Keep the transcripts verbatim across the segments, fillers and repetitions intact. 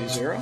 three zero.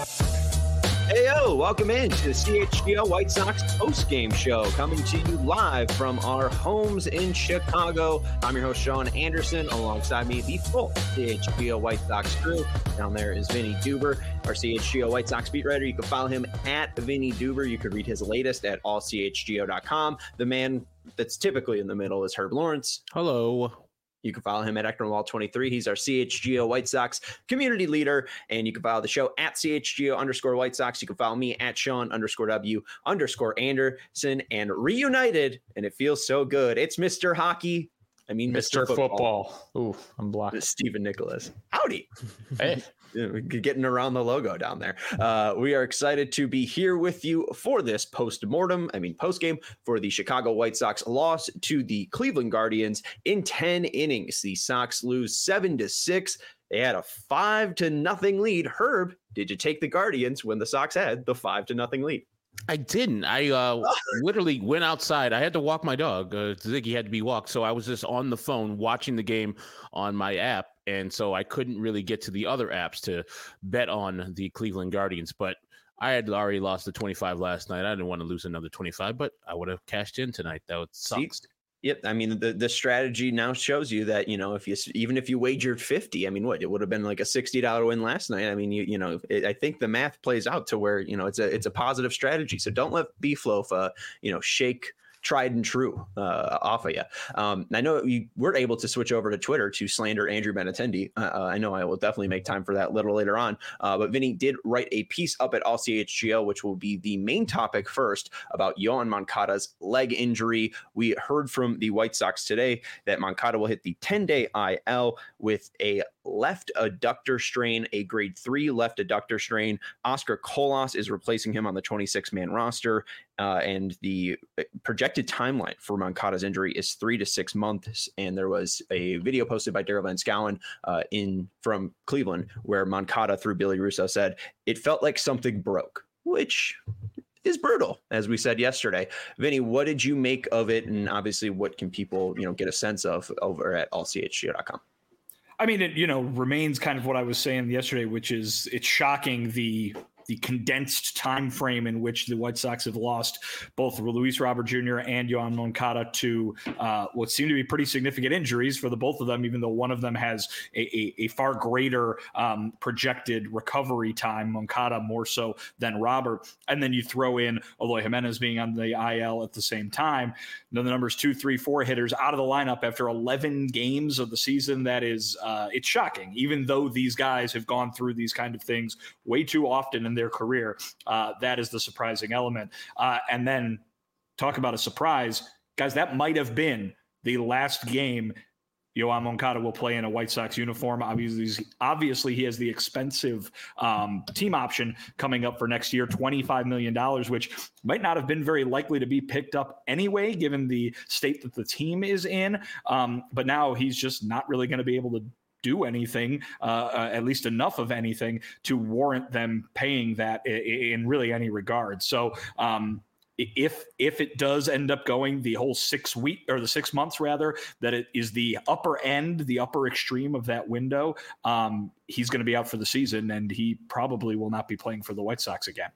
Hey, yo, welcome in to the C H G O White Sox post-game show, coming to you live from our homes in Chicago. I'm your host, Sean Anderson. Alongside me, the full C H G O White Sox crew. Down there is Vinny Duber, our C H G O White Sox beat writer. You can follow him at Vinny Duber. You could read his latest at all c h g o dot com. The man that's typically in the middle is Herb Lawrence. Hello. You can follow him at Ecknerwall twenty-three. He's our C H G O White Sox community leader. And you can follow the show at C H G O underscore White Sox. You can follow me at Sean underscore W underscore Anderson. And reunited, and it feels so good, it's Mister Hockey. I mean, Mister Mister Football. Football. Ooh, I'm blocked. Stephen Nicholas. Howdy. Hey. Getting around the logo down there. Uh, we are excited to be here with you for this post-mortem, I mean post-game, for the Chicago White Sox loss to the Cleveland Guardians in ten innings. The Sox lose seven to six. They had a five to nothing lead. Herb, did you take the Guardians when the Sox had the five to nothing lead? I didn't. I uh, literally went outside. I had to walk my dog. Uh, Ziggy had to be walked. So I was just on the phone watching the game on my app. And so I couldn't really get to the other apps to bet on the Cleveland Guardians. But I had already lost the twenty-five last night. I didn't want to lose another twenty-five, but I would have cashed in tonight. That would suck. Yep. I mean, the, the strategy now shows you that, you know, if you, even if you wagered fifty, I mean, what, it would have been like a sixty dollars win last night. I mean, you, you know, it, I think the math plays out to where, you know, it's a, it's a positive strategy. So don't let Beef Loaf, uh, you know, shake tried and true uh, off of you. Um, I know we were able to switch over to Twitter to slander Andrew Benintendi. Uh, I know I will definitely make time for that a little later on. Uh, but Vinny did write a piece up at All C H G O, which will be the main topic first, about Yoán Moncada's leg injury. We heard from the White Sox today that Moncada will hit the ten-day I L with a left adductor strain, a grade three left adductor strain. Oscar Colas is replacing him on the twenty-six man roster. Uh, and the projected timeline for Moncada's injury is three to six months. And there was a video posted by Daryl Van Schouwen uh, in from Cleveland where Moncada, through Billy Russo, said it felt like something broke, which is brutal, as we said yesterday. Vinny, what did you make of it? And obviously, what can people, you know, get a sense of over at all c h g o dot com? I mean, it, you know, remains kind of what I was saying yesterday, which is it's shocking the the condensed time frame in which the White Sox have lost both Luis Robert Junior and Yoán Moncada to uh, what seem to be pretty significant injuries for the both of them, even though one of them has a, a, a far greater um, projected recovery time, Moncada more so than Robert. And then you throw in Eloy Jimenez being on the I L at the same time. Then the numbers two, three, four hitters out of the lineup after eleven games of the season. That is, uh, it's shocking, even though these guys have gone through these kind of things way too often in their career. Uh, that is the surprising element. Uh, and then talk about a surprise, guys, that might have been the last game Yoán Moncada will play in a White Sox uniform. Obviously, obviously he has the expensive um, team option coming up for next year, twenty-five million dollars, which might not have been very likely to be picked up anyway, given the state that the team is in. Um, but now he's just not really going to be able to do anything, uh, uh, at least enough of anything to warrant them paying that in, in really any regard. So um, if if it does end up going the whole six week or the six months rather, that it is the upper end, the upper extreme of that window, um, he's going to be out for the season, and he probably will not be playing for the White Sox again.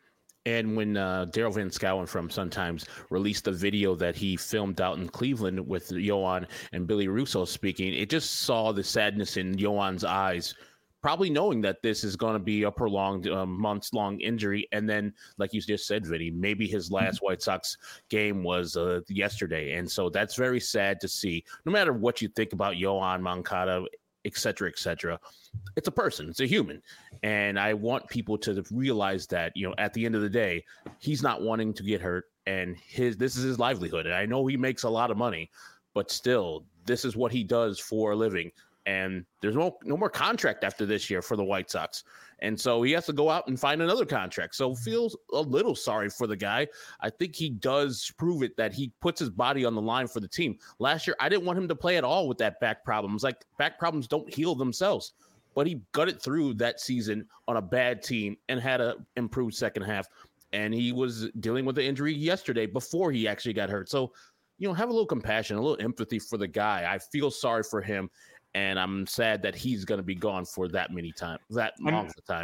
And when uh, Daryl Van Schouwen from Sun-Times released the video that he filmed out in Cleveland with Yoán and Billy Russo speaking, it just saw the sadness in Yoán's eyes, probably knowing that this is going to be a prolonged, uh, months-long injury. And then, like you just said, Vinny, maybe his last mm-hmm. White Sox game was uh, yesterday. And so that's very sad to see. No matter what you think about Yoán Moncada, et cetera, et cetera, it's a person, it's a human. And I want people to realize that, you know, at the end of the day, he's not wanting to get hurt, and his this is his livelihood. And I know he makes a lot of money, but still, this is what he does for a living. And there's no no more contract after this year for the White Sox. And so he has to go out and find another contract. So feels a little sorry for the guy. I think he does prove it that he puts his body on the line for the team. Last year, I didn't want him to play at all with that back problems. Like, back problems don't heal themselves. But he gutted through that season on a bad team and had an improved second half. And he was dealing with the injury yesterday before he actually got hurt. So, you know, have a little compassion, a little empathy for the guy. I feel sorry for him. And I'm sad that he's going to be gone for that many time, that long of a time.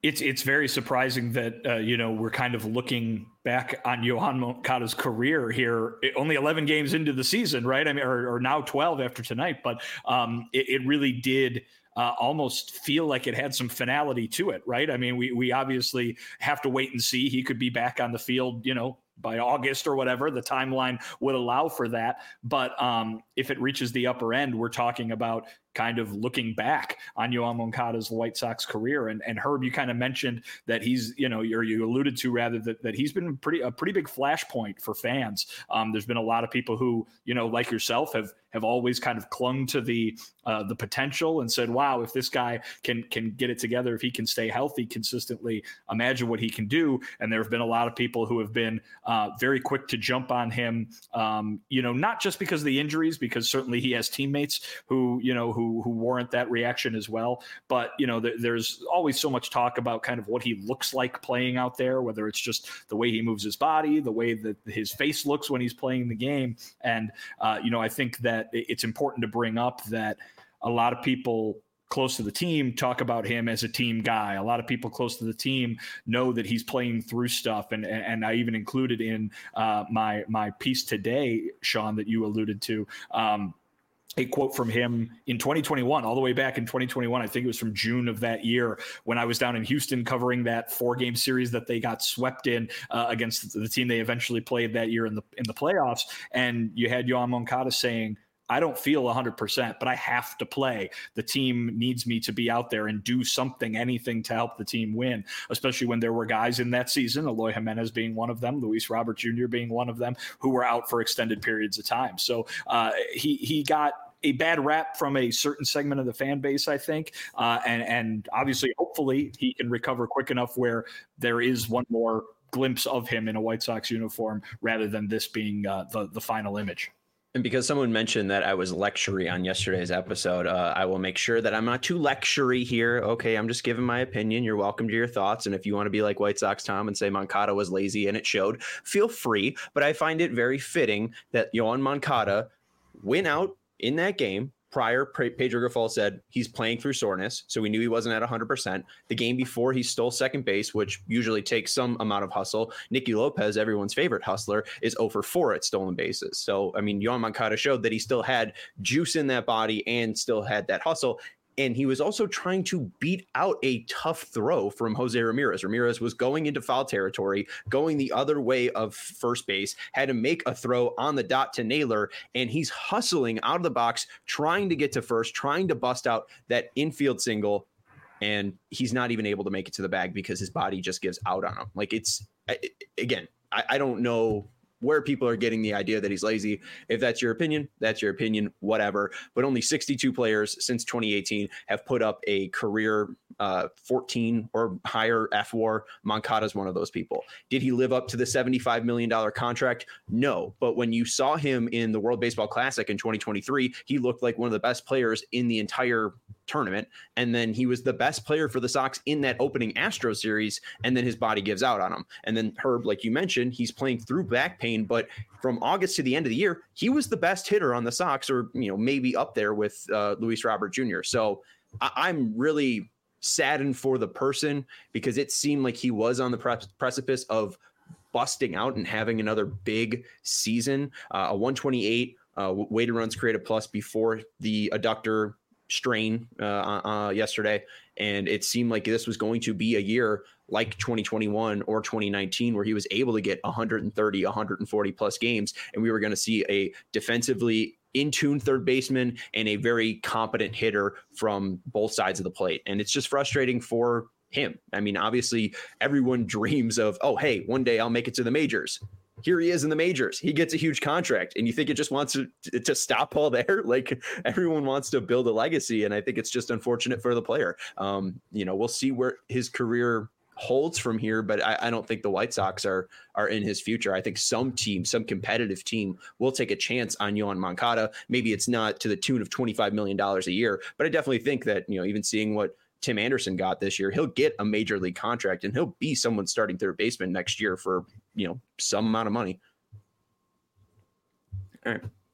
It's it's very surprising that, uh, you know, we're kind of looking back on Yoan Moncada's career here, only eleven games into the season, right? I mean, or, or now twelve after tonight, but um, it, it really did uh, almost feel like it had some finality to it, right? I mean, we we obviously have to wait and see. He could be back on the field, you know, by August or whatever the timeline would allow for that. But um, if it reaches the upper end, we're talking about kind of looking back on Yoan Moncada's White Sox career. And, and Herb, you kind of mentioned that he's, you know, or you alluded to rather that, that he's been pretty, a pretty big flashpoint for fans. Um, there's been a lot of people who, you know, like yourself have, have always kind of clung to the, uh, the potential and said, wow, if this guy can, can get it together, if he can stay healthy consistently, imagine what he can do. And there have been a lot of people who have been uh, very quick to jump on him, um, you know, not just because of the injuries, because certainly he has teammates who, you know, who, who warrant that reaction as well. But, you know, th- there's always so much talk about kind of what he looks like playing out there, whether it's just the way he moves his body, the way that his face looks when he's playing the game. And, uh, you know, I think that it's important to bring up that a lot of people close to the team talk about him as a team guy. A lot of people close to the team know that he's playing through stuff. And, and I even included in uh, my, my piece today, Sean, that you alluded to, um, a quote from him in twenty twenty-one, all the way back in twenty twenty-one. I think it was from June of that year when I was down in Houston covering that four game series that they got swept in uh, against the team they eventually played that year in the, in the playoffs. And you had Yoan Moncada saying, I don't feel one hundred percent, but I have to play. The team needs me to be out there and do something, anything to help the team win, especially when there were guys in that season, Eloy Jimenez being one of them, Luis Robert Junior being one of them, who were out for extended periods of time. So uh, he he got a bad rap from a certain segment of the fan base, I think. Uh, and, and obviously, hopefully he can recover quick enough where there is one more glimpse of him in a White Sox uniform rather than this being uh, the, the final image. And because someone mentioned that I was lectury on yesterday's episode, uh, I will make sure that I'm not too lectury here. Okay, I'm just giving my opinion. You're welcome to your thoughts. And if you want to be like White Sox Tom and say Moncada was lazy and it showed, feel free. But I find it very fitting that Yoan Moncada went out in that game. Prior, Pedro Grifol said he's playing through soreness, so we knew he wasn't at one hundred percent. The game before, he stole second base, which usually takes some amount of hustle. Nicky Lopez, everyone's favorite hustler, is zero for four at stolen bases. So, I mean, Yoan Moncada showed that he still had juice in that body and still had that hustle. And he was also trying to beat out a tough throw from Jose Ramirez. Ramirez was going into foul territory, going the other way of first base, had to make a throw on the dot to Naylor, and he's hustling out of the box, trying to get to first, trying to bust out that infield single, and he's not even able to make it to the bag because his body just gives out on him. Like, it's, again, I, I don't know where people are getting the idea that he's lazy. If that's your opinion, that's your opinion, whatever. But only sixty-two players since twenty eighteen have put up a career uh, fourteen or higher F W A R. Moncada's one of those people. Did he live up to the seventy-five million dollars contract? No. But when you saw him in the World Baseball Classic in twenty twenty-three, he looked like one of the best players in the entire tournament. And then he was the best player for the Sox in that opening Astro series. And then his body gives out on him. And then Herb, like you mentioned, he's playing through back pain. But from August to the end of the year, he was the best hitter on the Sox, or, you know, maybe up there with uh, Luis Robert Junior So I- I'm really saddened for the person, because it seemed like he was on the pre- precipice of busting out and having another big season. Uh, a one twenty-eight uh, weighted runs created plus before the adductor strain uh, uh, yesterday. And it seemed like this was going to be a year like twenty twenty-one or twenty nineteen, where he was able to get one thirty, one forty plus games. And we were going to see a defensively in tune third baseman and a very competent hitter from both sides of the plate. And it's just frustrating for him. I mean, obviously everyone dreams of, oh, hey, one day I'll make it to the majors. Here he is in the majors. He gets a huge contract, and you think it just wants to, to stop all there? Like, everyone wants to build a legacy, and I think it's just unfortunate for the player. Um, you know, we'll see where his career holds from here, but I, I don't think the White Sox are are in his future. I think some team, some competitive team, will take a chance on Yoan Moncada. Maybe it's not to the tune of twenty-five million dollars a year, but I definitely think that, you know, even seeing what Tim Anderson got this year, he'll get a major league contract, and he'll be someone starting third baseman next year for, you know, some amount of money. All right.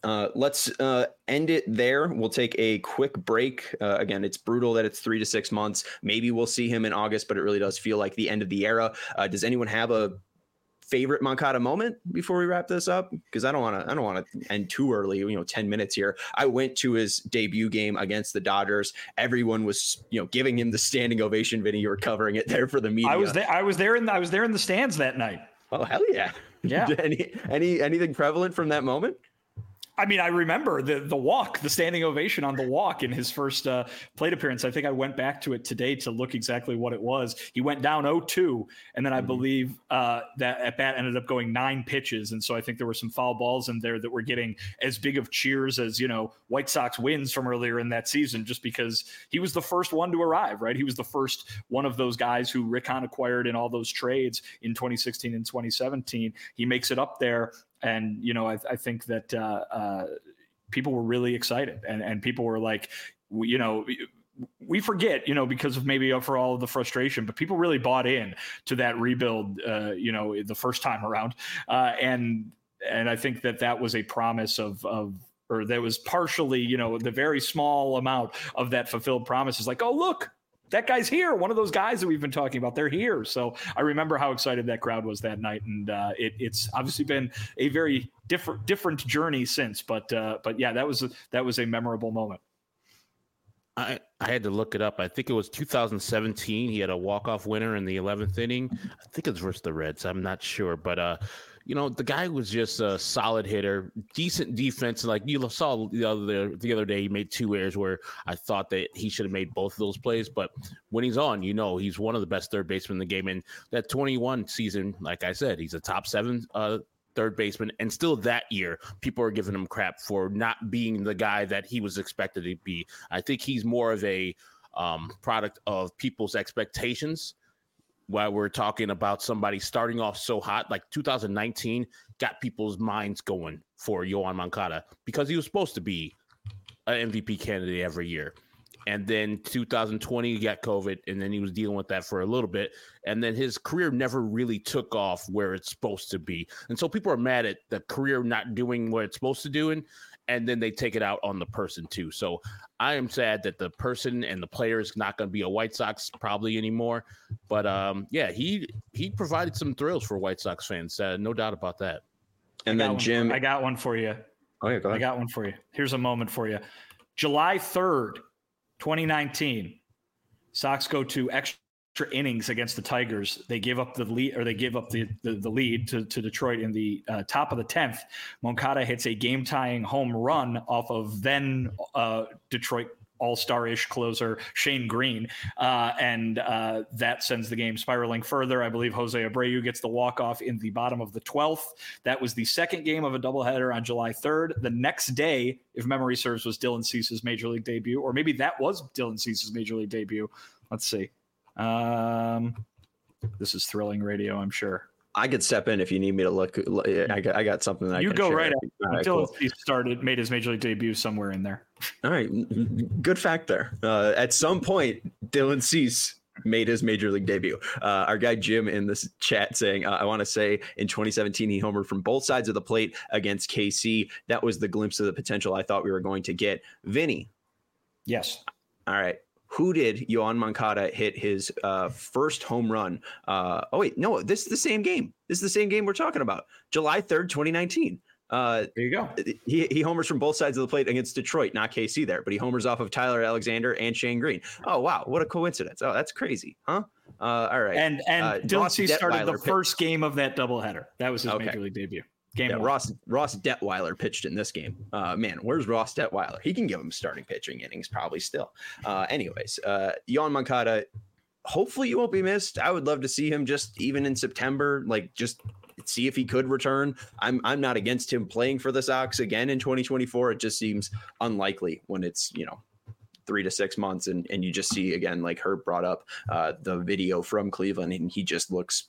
Uh, let's uh, end it there. We'll take a quick break. Uh, again, it's brutal that it's three to six months. Maybe we'll see him in August, but it really does feel like the end of the era. Uh, does anyone have a favorite Moncada moment before we wrap this up? Because I don't want to. I don't want to end too early. You know, ten minutes here. I went to his debut game against the Dodgers. Everyone was, you know, giving him the standing ovation. Vinny, you were covering it there for the media. I was there. I was there in. The, I was there in the stands that night. Oh hell yeah! Yeah. any any anything prevalent from that moment? I mean, I remember the the walk, the standing ovation on the walk in his first uh, plate appearance. I think I went back to it today to look exactly what it was. He went down oh two, and then I mm-hmm. believe uh, that at bat ended up going nine pitches. And so I think there were some foul balls in there that were getting as big of cheers as, you know, White Sox wins from earlier in that season, just because he was the first one to arrive, right? He was the first one of those guys who Rick Hahn acquired in all those trades in twenty sixteen and twenty seventeen. He makes it up there. And, you know, I, I think that uh, uh, people were really excited, and, and people were like, you know, we forget, you know, because of maybe for all of the frustration, but people really bought in to that rebuild, uh, you know, the first time around. Uh, and and I think that that was a promise of, of or that was partially, you know, the very small amount of that fulfilled promise is like, oh, look, that guy's here. One of those guys that we've been talking about, they're here. So I remember how excited that crowd was that night. And uh, it, it's obviously been a very different, different journey since, but, uh, but yeah, that was, a, that was a memorable moment. I, I had to look it up. I think it was two thousand seventeen. He had a walk-off winner in the eleventh inning. I think it's versus the Reds. I'm not sure, but uh, you know, the guy was just a solid hitter, decent defense. Like you saw the other the other day, he made two errors where I thought that he should have made both of those plays. But when he's on, you know, he's one of the best third basemen in the game. And that twenty-one season, like I said, he's a top seven uh, third baseman. And still that year, people are giving him crap for not being the guy that he was expected to be. I think he's more of a um, product of people's expectations. While we're talking about somebody starting off so hot, like two thousand nineteen got people's minds going for Yoan Moncada because he was supposed to be an M V P candidate every year. And then two thousand twenty, he got COVID, and then he was dealing with that for a little bit. And then his career never really took off where it's supposed to be. And so people are mad at the career not doing what it's supposed to do, and, and then they take it out on the person too. So I am sad that the person and the player is not going to be a White Sox probably anymore. But um, yeah, he he provided some thrills for White Sox fans. Uh, no doubt about that. And then Jim, I got one for you. Oh yeah, go ahead. I got one for you. Here's a moment for you. July third, twenty nineteen, Sox go to extra innings against the Tigers. They give up the lead, or they give up the, the, the lead to, to Detroit in the uh, top of the tenth. Moncada hits a game-tying home run off of then uh, Detroit all-star-ish closer Shane Green, uh, and uh, that sends the game spiraling further. I believe Jose Abreu gets the walk-off in the bottom of the twelfth. That was the second game of a doubleheader on July third. The next day, if memory serves, was Dylan Cease's Major League debut, or maybe that was Dylan Cease's Major League debut. Let's see. Um, this is thrilling radio, I'm sure. I could step in if you need me to look. I got, I got something that you I can go share. right Right, until cool. he started, made his Major League debut somewhere in there. All right, good fact there. Uh, at some point, Dylan Cease made his Major League debut. Uh, our guy Jim in this chat saying, uh, I want to say in twenty seventeen, he homered from both sides of the plate against K C. That was the glimpse of the potential I thought we were going to get. Vinny. Yes. All right. Who did Yoan Moncada hit his uh, first home run? Uh, oh, wait, no, this is the same game. This is the same game we're talking about. July third, twenty nineteen. Uh, there you go. He, he homers from both sides of the plate against Detroit, not K C there, but he homers off of Tyler Alexander and Shane Green. Oh, wow. What a coincidence. Oh, that's crazy. Huh? Uh, all right. And, and uh, Dylan Cease started the pitched. first game of that doubleheader. That was his okay. Major League debut. Game yeah, one. Ross Ross Detweiler pitched in this game. Uh, man, where's Ross Detweiler? He can give him starting pitching innings probably still. Uh, anyways, uh, Yoan Moncada, hopefully you won't be missed. I would love to see him just even in September, like just see if he could return. I'm I'm not against him playing for the Sox again in twenty twenty-four. It just seems unlikely when it's, you know, three to six months and, and you just see, again, like Herb brought up uh, the video from Cleveland, and he just looks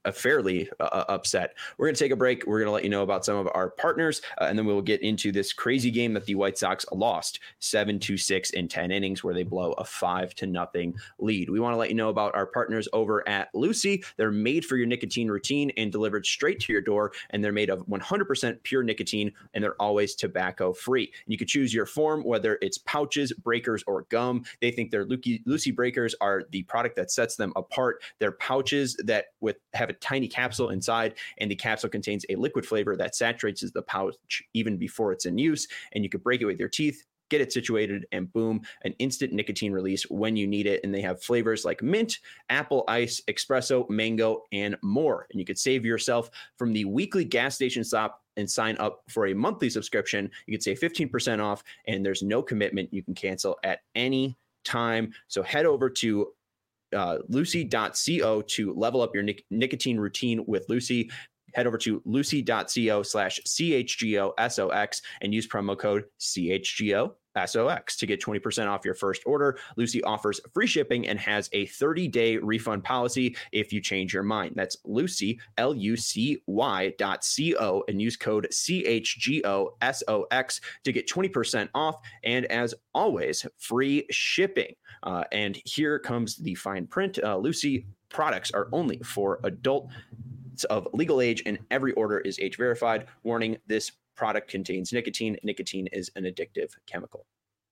a fairly uh, upset. We're going to take a break. We're going to let you know about some of our partners, uh, and then we'll get into this crazy game that the White Sox lost seven to six in ten innings, where they blow a five to nothing lead. We want to let you know about our partners over at Lucy. They're made for your nicotine routine and delivered straight to your door, and they're made of one hundred percent pure nicotine, and they're always tobacco free. And you can choose your form, whether it's pouches, breakers, or gum. They think their Lucy, Lucy breakers are the product that sets them apart. They're pouches that with have a tiny capsule inside, and the capsule contains a liquid flavor that saturates the pouch even before it's in use, and you can break it with your teeth, get it situated, and boom, an instant nicotine release when you need it. And they have flavors like mint, apple ice, espresso, mango, and more. And you could save yourself from the weekly gas station stop and sign up for a monthly subscription. You could save fifteen percent off, and there's no commitment. You can cancel at any time. So head over to uh, lucy dot co to level up your nic- nicotine routine with Lucy. Head over to lucy dot co slash C H G O S O X and use promo code C H G O S O X to get twenty percent off your first order. Lucy offers free shipping and has a thirty-day refund policy if you change your mind. That's Lucy, L U C Y dot C O, and use code C H G O S O X to get twenty percent off. And as always, free shipping. Uh, and here comes the fine print. Uh, Lucy products are only for adults of legal age, and every order is age verified. Warning, this product contains nicotine. Nicotine is an addictive chemical.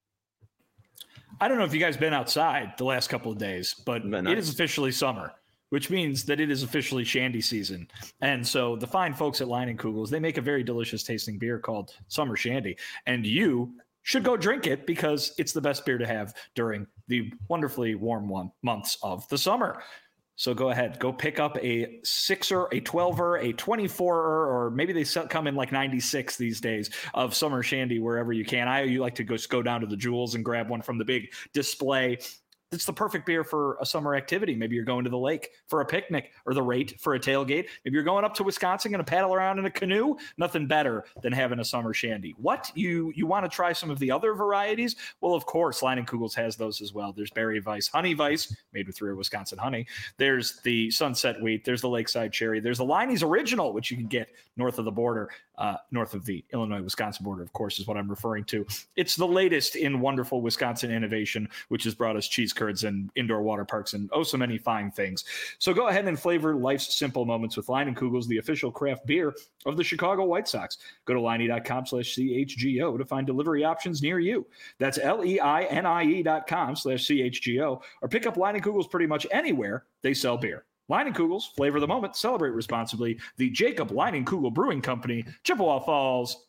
I don't know if you guys been outside the last couple of days, but nice. It is officially summer, which means that it is officially shandy season. And so the fine folks at Leinenkugel's, they make a very delicious tasting beer called Summer Shandy. And you should go drink it because it's the best beer to have during the wonderfully warm one months of the summer. So go ahead, go pick up a sixer, a twelver, a twenty-four-er, or maybe they come in like ninety-six these days of Summer Shandy wherever you can. I you like to go go down to the Jewels and grab one from the big display. It's the perfect beer for a summer activity. Maybe you're going to the lake for a picnic, or the Rate for a tailgate. Maybe you're going up to Wisconsin and paddle around in a canoe. Nothing better than having a summer shandy. What? You you want to try some of the other varieties? Well, of course, Leinenkugel's has those as well. There's Berry Weiss, Honey Weiss, made with real Wisconsin honey. There's the Sunset Wheat. There's the Lakeside Cherry. There's the Leinie's Original, which you can get north of the border, uh, north of the Illinois-Wisconsin border, of course, is what I'm referring to. It's the latest in wonderful Wisconsin innovation, which has brought us cheese curds and indoor water parks and oh so many fine things. So go ahead and flavor life's simple moments with Leinenkugel's, the official craft beer of the Chicago White Sox. Go to Leinie dot com slash C H G O to find delivery options near you. That's L E I N I E dot com slash C H G O, or pick up Leinenkugel's pretty much anywhere they sell beer. Leinenkugel's, flavor the moment, celebrate responsibly. The Jacob Leinenkugel Brewing Company, Chippewa Falls.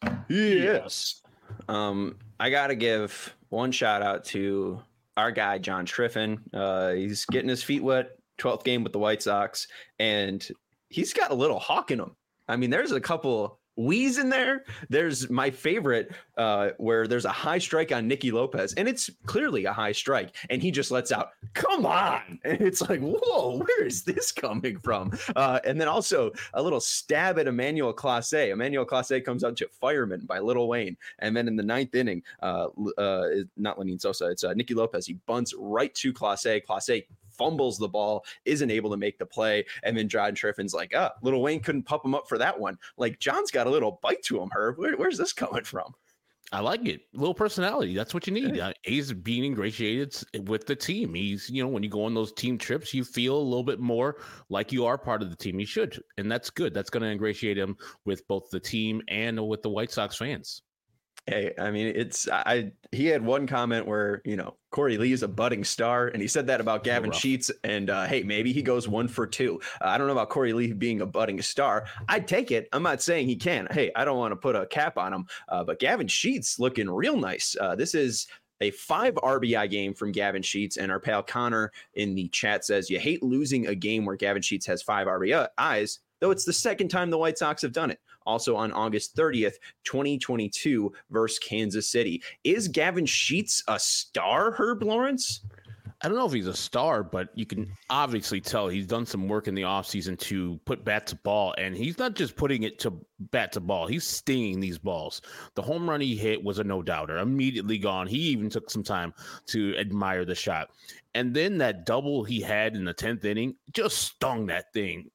Yes. Um, I got to give one shout out to our guy, John Triffin. Uh, he's getting his feet wet, twelfth game with the White Sox, and he's got a little hawk in him. I mean, there's a couple wheeze in there. There's my favorite uh, where there's a high strike on Nicky Lopez, and it's clearly a high strike, and he just lets out, come on. And it's like, whoa, where is this coming from? Uh, and then also a little stab at Emmanuel Clase. Emmanuel Clase comes out to Fireman by Lil Wayne. And then in the ninth inning, uh, uh, not Lenyn Sosa, it's uh, Nicky Lopez. He bunts right to Clase. Clase fumbles the ball, isn't able to make the play. And then John Triffin's like, ah, Lil Wayne couldn't pump him up for that one. Like, John's got a little bite to him, Herb. Where, where's this coming from? I like it. A little personality. That's what you need. Uh, he's being ingratiated with the team. He's, you know, when you go on those team trips, you feel a little bit more like you are part of the team. You should. And that's good. That's going to ingratiate him with both the team and with the White Sox fans. Hey, I mean, it's I. He had one comment where, you know, Corey Lee is a budding star, and he said that about Gavin Sheets. And uh, hey, maybe he goes one for two. Uh, I don't know about Corey Lee being a budding star. I'd take it. I'm not saying he can. Hey, I don't want to put a cap on him, uh, but Gavin Sheets looking real nice. Uh, this is a five R B I game from Gavin Sheets, and our pal Connor in the chat says you hate losing a game where Gavin Sheets has five R B Is, though it's the second time the White Sox have done it. Also on August thirtieth, twenty twenty-two versus Kansas City. Is Gavin Sheets a star, Herb Lawrence? I don't know if he's a star, but you can obviously tell he's done some work in the offseason to put bat to ball, and he's not just putting it to bat to ball. He's stinging these balls. The home run he hit was a no-doubter, immediately gone. He even took some time to admire the shot. And then that double he had in the tenth inning just stung that thing. It,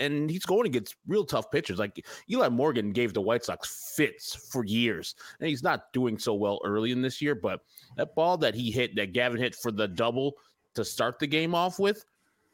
and he's going against real tough pitchers. Like Eli Morgan gave the White Sox fits for years, and he's not doing so well early in this year. But that ball that he hit, that Gavin hit for the double to start the game off with,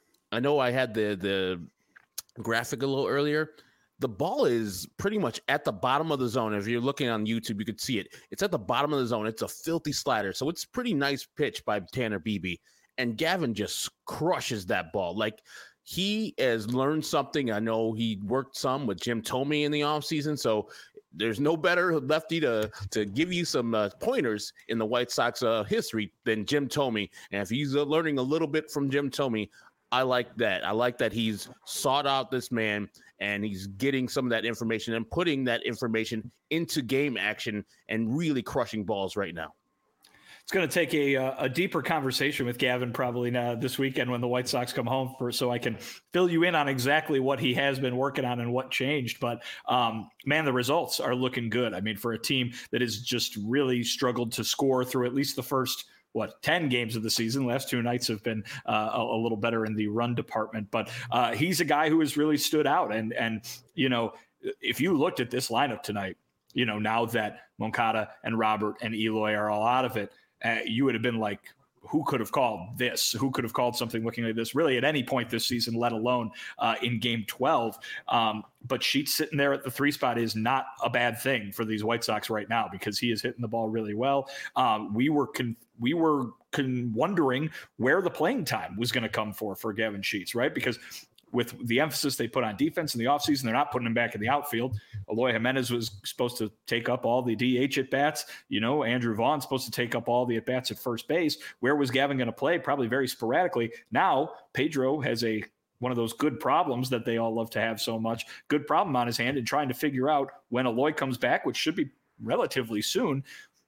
I know I had the the graphic a little earlier. The ball is pretty much at the bottom of the zone. If you're looking on YouTube, you could see it. It's at the bottom of the zone. It's a filthy slider. So it's a pretty nice pitch by Tanner Beebe. And Gavin just crushes that ball. Like, he has learned something. I know he worked some with Jim Thome in the offseason. So there's no better lefty to, to give you some uh, pointers in the White Sox uh, history than Jim Thome. And if he's uh, learning a little bit from Jim Thome, I like that. I like that he's sought out this man and he's getting some of that information and putting that information into game action and really crushing balls right now. It's going to take a a deeper conversation with Gavin probably now this weekend when the White Sox come home for so I can fill you in on exactly what he has been working on and what changed. But um, man, the results are looking good. I mean, for a team that has just really struggled to score through at least the first what, ten games of the season. Last two nights have been uh, a, a little better in the run department, but uh, he's a guy who has really stood out. And, and, you know, if you looked at this lineup tonight, you know, now that Moncada and Robert and Eloy are all out of it, uh, you would have been like, who could have called this? Who could have called something looking like this really at any point this season, let alone uh, in game twelve? Um, but Sheets sitting there at the three spot is not a bad thing for these White Sox right now because he is hitting the ball really well. Um, we were con- we were con- wondering where the playing time was going to come for for Gavin Sheets, right? Because with the emphasis they put on defense in the offseason, they're not putting him back in the outfield. Eloy Jimenez was supposed to take up all the D H at-bats. You know, Andrew Vaughn's supposed to take up all the at-bats at first base. Where was Gavin going to play? Probably very sporadically. Now, Pedro has a one of those good problems that they all love to have so much, good problem on his hand and trying to figure out when Eloy comes back, which should be relatively soon,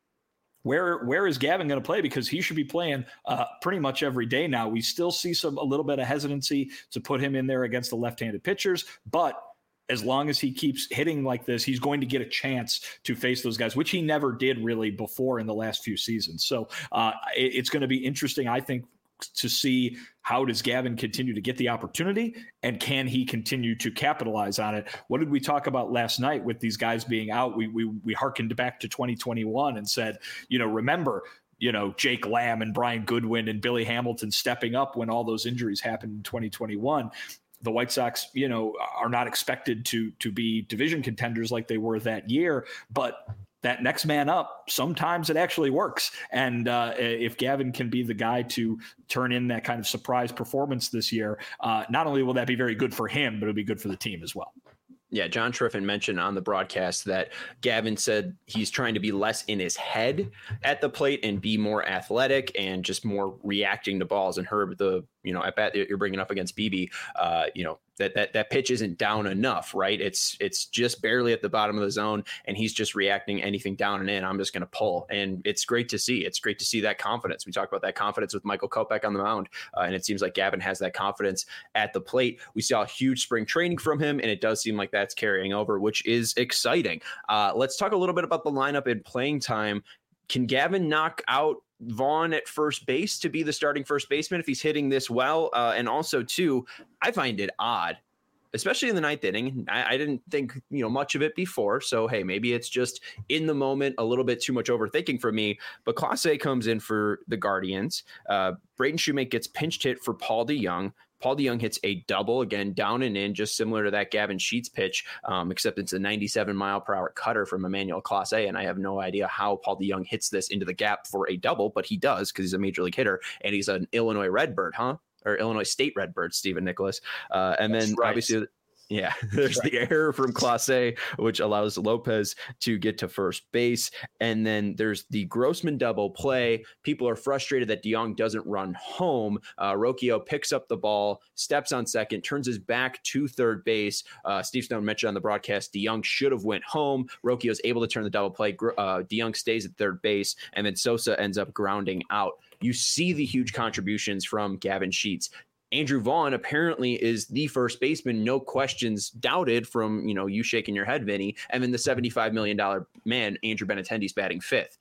Where where is Gavin going to play? Because he should be playing uh, pretty much every day now. We still see some a little bit of hesitancy to put him in there against the left-handed pitchers, but as long as he keeps hitting like this, he's going to get a chance to face those guys, which he never did really before in the last few seasons. So uh, it, it's going to be interesting, I think, to see how does Gavin continue to get the opportunity and can he continue to capitalize on it? What did we talk about last night with these guys being out? We we we hearkened back to twenty twenty-one and said, you know, remember, you know, Jake Lamb and Brian Goodwin and Billy Hamilton stepping up when all those injuries happened in twenty twenty-one. The White Sox, you know, are not expected to to be division contenders like they were that year, but that next man up, sometimes it actually works. And uh, if Gavin can be the guy to turn in that kind of surprise performance this year, uh, not only will that be very good for him, but it'll be good for the team as well. Yeah, John Triffin mentioned on the broadcast that Gavin said he's trying to be less in his head at the plate and be more athletic and just more reacting to balls. And Herb, the, you know, at bat you're bringing up against Beebe, uh, you know, that, that, that pitch isn't down enough, right? It's, it's just barely at the bottom of the zone and he's just reacting anything down and in. I'm just going to pull. And it's great to see. It's great to see that confidence. We talked about that confidence with Michael Kopech on the mound. Uh, and it seems like Gavin has that confidence at the plate. We saw a huge spring training from him and it does seem like that's carrying over, which is exciting. Uh, let's talk a little bit about the lineup and playing time. Can Gavin knock out Vaughn at first base to be the starting first baseman if he's hitting this well? Uh, and also, too, I find it odd, especially in the ninth inning. I, I didn't think, you know, much of it before. So, hey, maybe it's just in the moment, a little bit too much overthinking for me. But Clase comes in for the Guardians. Uh, Braden Shoemake gets pinched hit for Paul DeJong. Paul DeJong hits a double, again, down and in, just similar to that Gavin Sheets pitch, um, except it's a ninety-seven mile per hour cutter from Emmanuel Clase, and I have no idea how Paul DeJong hits this into the gap for a double, but he does because he's a major league hitter, and he's an Illinois Redbird, huh? Or Illinois State Redbird, Stephen Nicholas. Uh, and That's then right. obviously... Yeah, there's right. the error from Clase, which allows Lopez to get to first base. And then there's the Grossman double play. People are frustrated that DeJong doesn't run home. Uh, Rocchio picks up the ball, steps on second, turns his back to third base. Uh, Steve Stone mentioned on the broadcast, DeJong should have went home. Rocchio's able to turn the double play. Uh, DeJong stays at third base, and then Sosa ends up grounding out. You see the huge contributions from Gavin Sheets. Andrew Vaughn apparently is the first baseman, no questions doubted from, you know, you shaking your head, Vinny, and then the seventy-five million dollars man, Andrew Benintendi's batting fifth.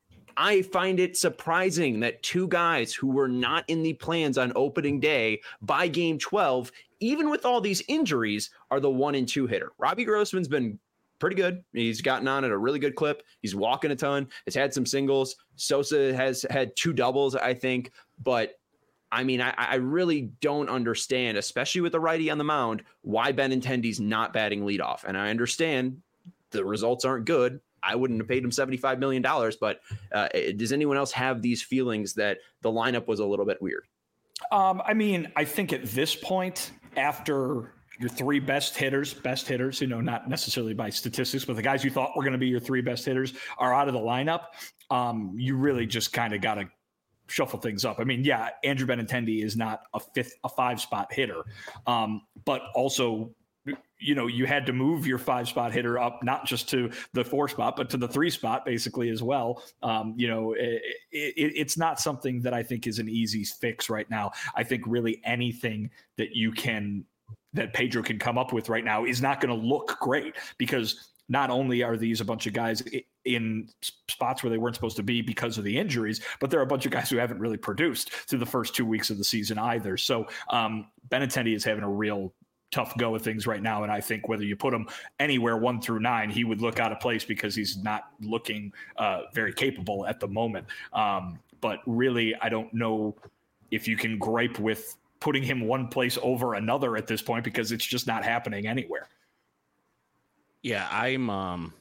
I find it surprising that two guys who were not in the plans on opening day by game twelve even with all these injuries, are the one and two hitter. Robbie Grossman's been pretty good. He's gotten on at a really good clip. He's walking a ton. Has had some singles. Sosa has had two doubles, I think. But I mean, I, I really don't understand, especially with the righty on the mound, why Benintendi's not batting leadoff. And I understand the results aren't good. I wouldn't have paid him seventy-five million dollars. But uh, does anyone else have these feelings that the lineup was a little bit weird? Um, I mean, I think at this point, after your three best hitters, best hitters, you know, not necessarily by statistics, but the guys you thought were going to be your three best hitters are out of the lineup. Um, you really just kind of got to shuffle things up. I mean, yeah, Andrew Benintendi is not a fifth, a five spot hitter, um, but also, you know, you had to move your five spot hitter up, not just to the four spot, but to the three spot basically as well. Um, you know, it, it, it's not something that I think is an easy fix right now. I think really anything that you can, that Pedro can come up with right now is not going to look great, because not only are these a bunch of guys in spots where they weren't supposed to be because of the injuries, but there are a bunch of guys who haven't really produced through the first two weeks of the season either. So um, Benintendi is having a real tough go of things right now. And I think whether you put him anywhere one through nine, he would look out of place because he's not looking uh, very capable at the moment. Um, but really, I don't know if you can gripe with putting him one place over another at this point, because it's just not happening anywhere. Yeah, I'm, um,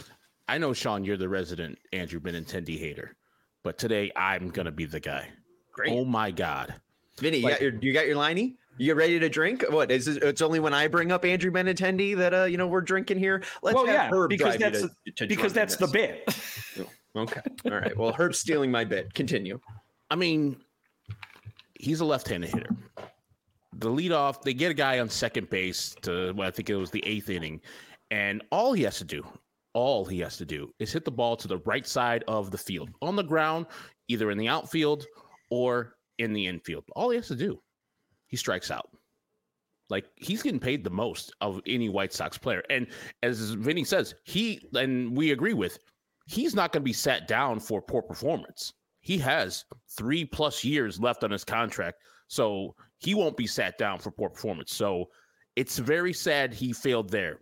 I know, Sean, you're the resident Andrew Benintendi hater, but today I'm going to be the guy. Great. Oh my God. Vinny, Like, you got your, you got your liney? You ready to drink? What is it? It's only when I bring up Andrew Benintendi that, uh, you know, we're drinking here. Let's well, have yeah, Herb because drive that's, you to, to because that's the bit. Okay. All right. Well, Herb's stealing my bit. Continue. I mean, he's a left-handed hitter. The leadoff, they get a guy on second base to, well, I think it was the eighth inning, and all he has to do, all he has to do is hit the ball to the right side of the field, on the ground, either in the outfield or in the infield. All he has to do, he strikes out. Like, he's getting paid the most of any White Sox player. And as Vinny says, he, and we agree with, he's not going to be sat down for poor performance. He has three plus years left on his contract, so he won't be sat down for poor performance. So it's very sad he failed there.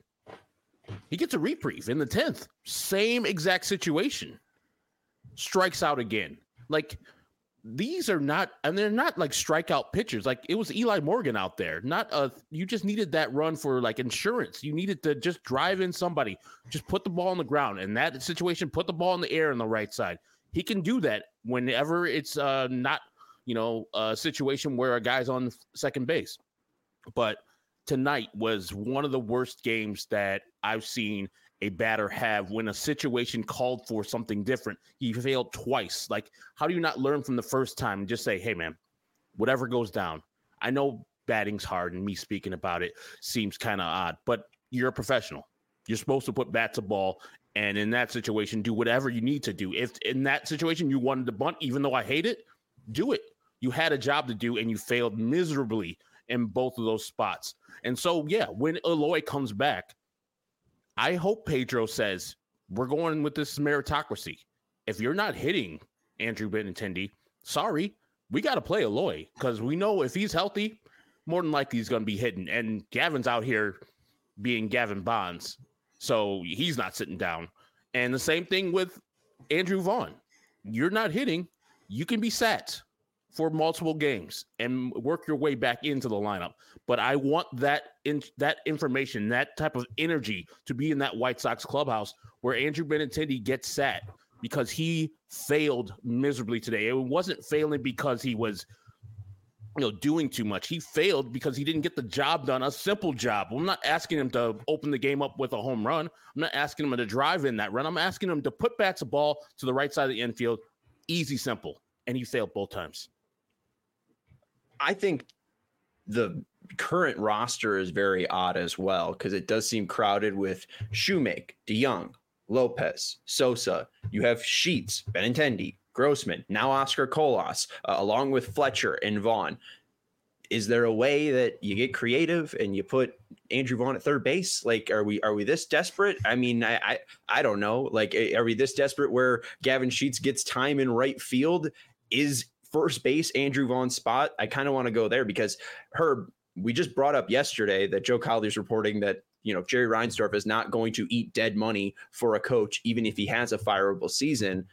He gets a reprieve in the tenth. Same exact situation. Strikes out again. Like, these are not, and they're not like strikeout pitchers. Like, it was Eli Morgan out there. Not a, you just needed that run for like insurance. You needed to just drive in somebody, just put the ball on the ground. In that situation, put the ball in the air on the right side. He can do that whenever it's uh, not, you know, a situation where a guy's on second base. But tonight was one of the worst games that I've seen a batter have when a situation called for something different. He failed twice. Like, how do you not learn from the first time and just say, hey, man, whatever goes down? I know batting's hard, and me speaking about it seems kind of odd, but you're a professional. You're supposed to put bat to ball, and in that situation, do whatever you need to do. If in that situation you wanted to bunt, even though I hate it, do it. You had a job to do, and you failed miserably in both of those spots. And so, yeah, when Eloy comes back, I hope Pedro says, we're going with this meritocracy. If you're not hitting Andrew Benintendi, sorry, we got to play Eloy, because we know if he's healthy, more than likely he's going to be hitting. And Gavin's out here being Gavin Bonds, so he's not sitting down. And the same thing with Andrew Vaughn. You're not hitting, you can be sat for multiple games and work your way back into the lineup. But I want that in that information, that type of energy to be in that White Sox clubhouse where Andrew Benintendi gets sat, because he failed miserably today. It wasn't failing because he was, you know, doing too much. He failed because he didn't get the job done, a simple job. I'm not asking him to open the game up with a home run. I'm not asking him to drive in that run. I'm asking him to put bats a ball to the right side of the infield. Easy, simple. And he failed both times. I think the current roster is very odd as well, because it does seem crowded with Shoemake, DeYoung, Lopez, Sosa. You have Sheets, Benintendi, Grossman, now Oscar Colas, uh, along with Fletcher and Vaughn. Is there a way that you get creative and you put Andrew Vaughn at third base? Like, are we are we this desperate? I mean, I I, I don't know. Like, are we this desperate where Gavin Sheets gets time in right field? Is first base Andrew Vaughn's spot? I kind of want to go there, because Herb, we just brought up yesterday that Joe Collier's reporting that, you know, Jerry Reinsdorf is not going to eat dead money for a coach, even if he has a fireable season.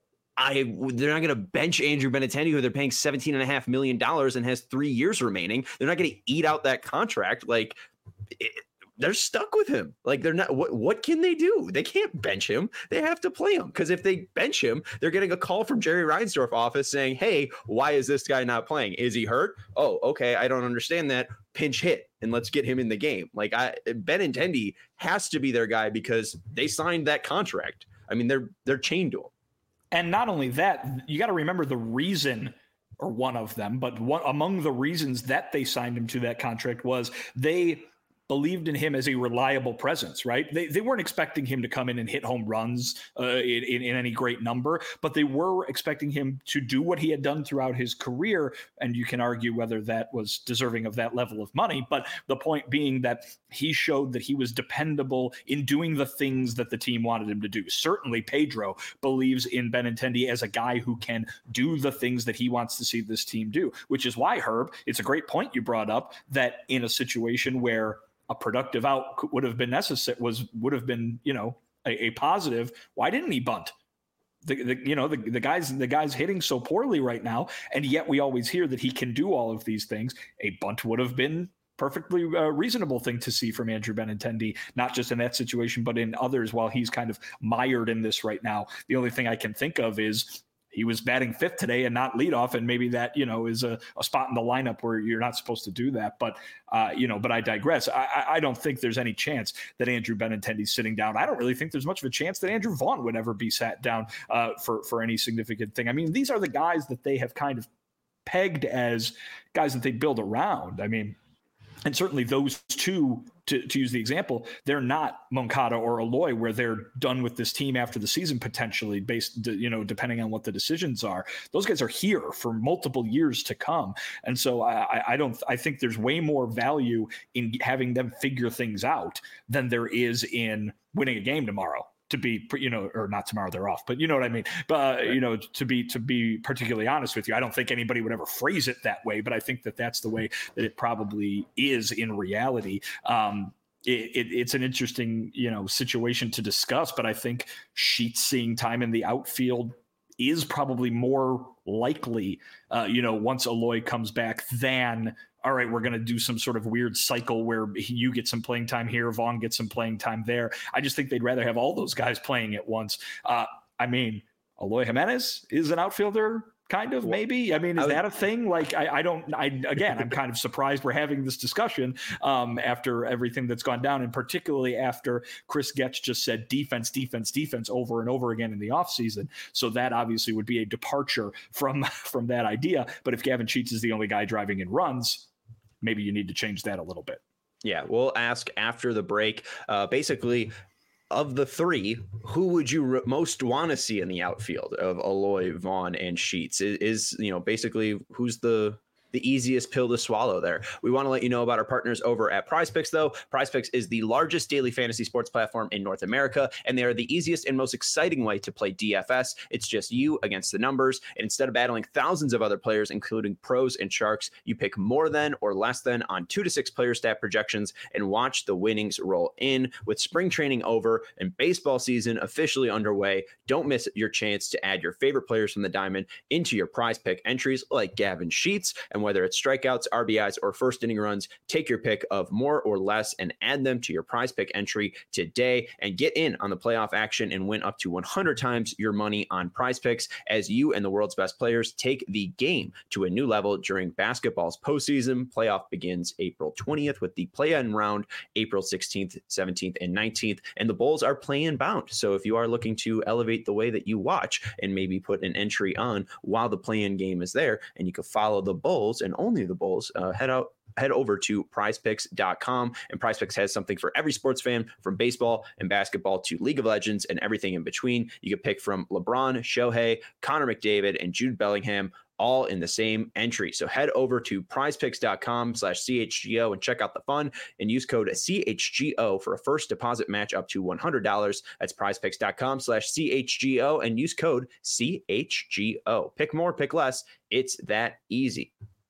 I, they're not going to bench Andrew Benintendi, who they're paying seventeen and a half million dollars and has three years remaining. They're not going to eat out that contract. Like, it, they're stuck with him. Like, they're not, what, what can they do? They can't bench him. They have to play him, because if they bench him, they're getting a call from Jerry Reinsdorf office saying, hey, why is this guy not playing? Is he hurt? Oh, okay. I don't understand that. Pinch hit and let's get him in the game. Like, I, Benintendi has to be their guy because they signed that contract. I mean, they're, they're chained to him. And not only that, you got to remember the reason, or one of them, but one among the reasons that they signed him to that contract was they believed in him as a reliable presence, right? They they weren't expecting him to come in and hit home runs uh, in, in, in any great number, but they were expecting him to do what he had done throughout his career. And you can argue whether that was deserving of that level of money. But the point being that he showed that he was dependable in doing the things that the team wanted him to do. Certainly Pedro believes in Benintendi as a guy who can do the things that he wants to see this team do, which is why, Herb, it's a great point you brought up that in a situation where a productive out would have been necessary, was would have been, you know, a, a positive. Why didn't he bunt? The, the you know the the guys the guys hitting so poorly right now, and yet we always hear that he can do all of these things. A bunt would have been perfectly uh, reasonable thing to see from Andrew Benintendi, not just in that situation, but in others. While he's kind of mired in this right now, the only thing I can think of is he was batting fifth today and not leadoff, and maybe that, you know, is a, a spot in the lineup where you're not supposed to do that. But, uh, you know, but I digress. I, I don't think there's any chance that Andrew Benintendi's sitting down. I don't really think there's much of a chance that Andrew Vaughn would ever be sat down uh, for, for any significant thing. I mean, these are the guys that they have kind of pegged as guys that they build around. I mean, and certainly those two, to, to use the example, they're not Moncada or Eloy, where they're done with this team after the season, potentially, based, you know, depending on what the decisions are. Those guys are here for multiple years to come. And so I, I don't, I think there's way more value in having them figure things out than there is in winning a game tomorrow. To be, you know, or not tomorrow, they're off, but you know what I mean? But, uh, you know, to be, to be particularly honest with you, I don't think anybody would ever phrase it that way, but I think that that's the way that it probably is in reality. Um, It, it, it's an interesting, you know, situation to discuss, but I think Sheets seeing time in the outfield is probably more likely, uh, you know, once Eloy comes back than, all right, we're going to do some sort of weird cycle where you get some playing time here, Vaughn gets some playing time there. I just think they'd rather have all those guys playing at once. Uh, I mean, Eloy Jimenez is an outfielder. Kind of, maybe. I mean, is that a thing? Like, I, I don't, I, again, I'm kind of surprised we're having this discussion um, after everything that's gone down, and particularly after Chris Getch just said defense, defense, defense over and over again in the offseason. So that obviously would be a departure from, from that idea. But if Gavin Sheets is the only guy driving in runs, maybe you need to change that a little bit. Yeah, we'll ask after the break. Uh, basically, of the three, who would you re- most want to see in the outfield of Eloy, Vaughn, and Sheets? Is, is, you know, basically who's the the easiest pill to swallow there? We want to let you know about our partners over at PrizePicks, though. PrizePicks is the largest daily fantasy sports platform in North America, and they are the easiest and most exciting way to play D F S. It's just you against the numbers, and instead of battling thousands of other players, including pros and sharks, you pick more than or less than on two to six player stat projections and watch the winnings roll in. With spring training over and baseball season officially underway, don't miss your chance to add your favorite players from the diamond into your PrizePick entries like Gavin Sheets. And whether it's strikeouts, R B Is, or first inning runs, take your pick of more or less and add them to your PrizePick entry today and get in on the playoff action and win up to one hundred times your money on PrizePicks as you and the world's best players take the game to a new level during basketball's postseason. Playoff begins April twentieth with the play-in round April sixteenth, seventeenth, and nineteenth, and the Bulls are play-in bound. So if you are looking to elevate the way that you watch and maybe put an entry on while the play-in game is there, and you can follow the Bulls and only the Bulls, uh, head out head over to prize picks dot com, and PrizePicks has something for every sports fan, from baseball and basketball to League of Legends and everything in between. You can pick from LeBron, Shohei, Connor McDavid, and Jude Bellingham, all in the same entry. So head over to prize picks dot com slash C H G O and check out the fun and use code C H G O for a first deposit match up to one hundred dollars. That's prize picks dot com slash C H G O and use code C H G O. Pick more, pick less. It's that easy.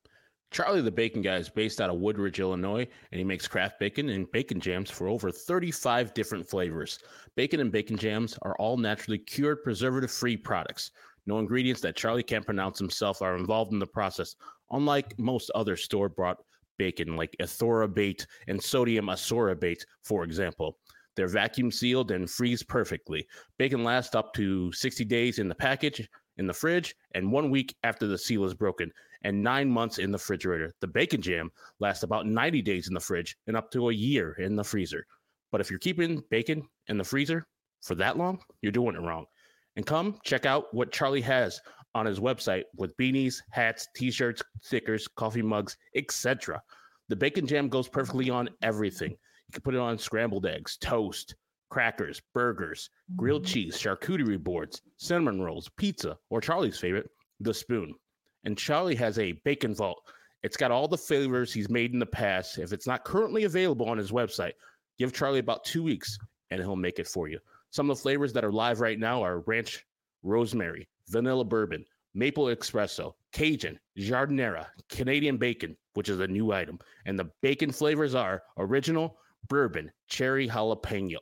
Charlie the Bacon Guy is based out of Woodridge, Illinois, and he makes craft bacon and bacon jams for over thirty-five different flavors. Bacon and bacon jams are all naturally cured, preservative-free products. No ingredients that Charlie can't pronounce himself are involved in the process, unlike most other store-bought bacon like ethorabate and sodium asorabate, for example. They're vacuum sealed and freeze perfectly. Bacon lasts up to sixty days in the package, in the fridge, and one week after the seal is broken, and nine months in the refrigerator. The bacon jam lasts about ninety days in the fridge and up to a year in the freezer. But if you're keeping bacon in the freezer for that long, you're doing it wrong. And come check out what Charlie has on his website with beanies, hats, t-shirts, stickers, coffee mugs, et cetera. The bacon jam goes perfectly on everything. You can put it on scrambled eggs, toast, crackers, burgers, grilled cheese, charcuterie boards, cinnamon rolls, pizza, or Charlie's favorite, the spoon. And Charlie has a bacon vault. It's got all the flavors he's made in the past. If it's not currently available on his website, give Charlie about two weeks and he'll make it for you. Some of the flavors that are live right now are ranch rosemary, vanilla bourbon, maple espresso, Cajun, jardinera, Canadian bacon, which is a new item. And the bacon flavors are original, bourbon, cherry jalapeno.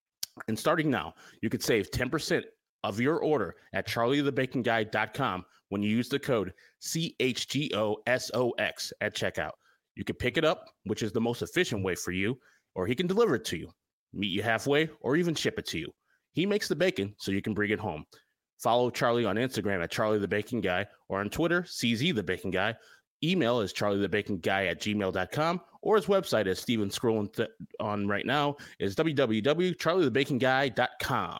And starting now, you could save ten percent of your order at charlie the bacon guy dot com when you use the code C H G O S O X at checkout. You can pick it up, which is the most efficient way for you, or he can deliver it to you, meet you halfway, or even ship it to you. He makes the bacon so you can bring it home. Follow Charlie on Instagram at Charlie the Bacon Guy, or on Twitter, C Z the Bacon Guy. Email is charlie the bacon guy at gmail dot com, or his website, as Steven's scrolling th- on right now, is w w w dot charlie the bacon guy dot com.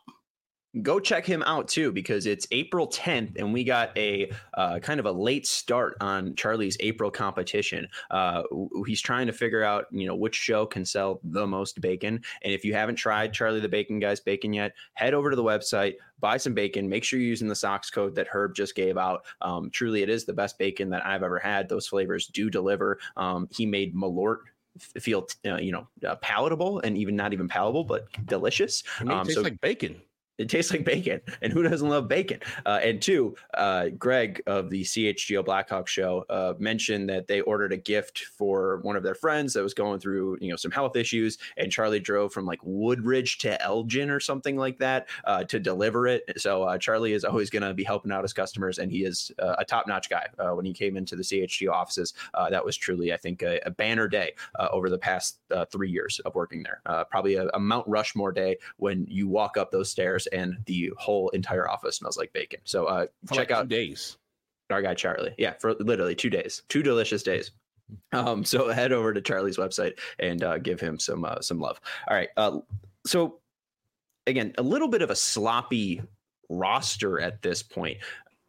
Go check him out too, because it's April tenth and we got a uh, kind of a late start on Charlie's April competition. Uh, he's trying to figure out, you know, which show can sell the most bacon. And if you haven't tried Charlie the Bacon Guy's bacon yet, head over to the website, buy some bacon. Make sure you're using the Sox code that Herb just gave out. Um, truly, it is the best bacon that I've ever had. Those flavors do deliver. Um, he made Malort feel, uh, you know, uh, palatable, and even not even palatable, but delicious. I mean, it um, tastes so like bacon. It tastes like bacon, and who doesn't love bacon? Uh, and two, uh, Greg of the C H G O Blackhawk show uh, mentioned that they ordered a gift for one of their friends that was going through, you know, some health issues, and Charlie drove from like Woodridge to Elgin or something like that uh, to deliver it. So uh, Charlie is always going to be helping out his customers, and he is uh, a top-notch guy. Uh, when he came into the C H G O offices, uh, that was truly, I think, a, a banner day uh, over the past uh, three years of working there. Uh, probably a, a Mount Rushmore day when you walk up those stairs and the whole entire office smells like bacon. So uh, check like out two days. Our guy Charlie. Yeah, for literally two days, two delicious days. Um, so head over to Charlie's website and uh, give him some uh, some love. All right. Uh, so again, a little bit of a sloppy roster at this point.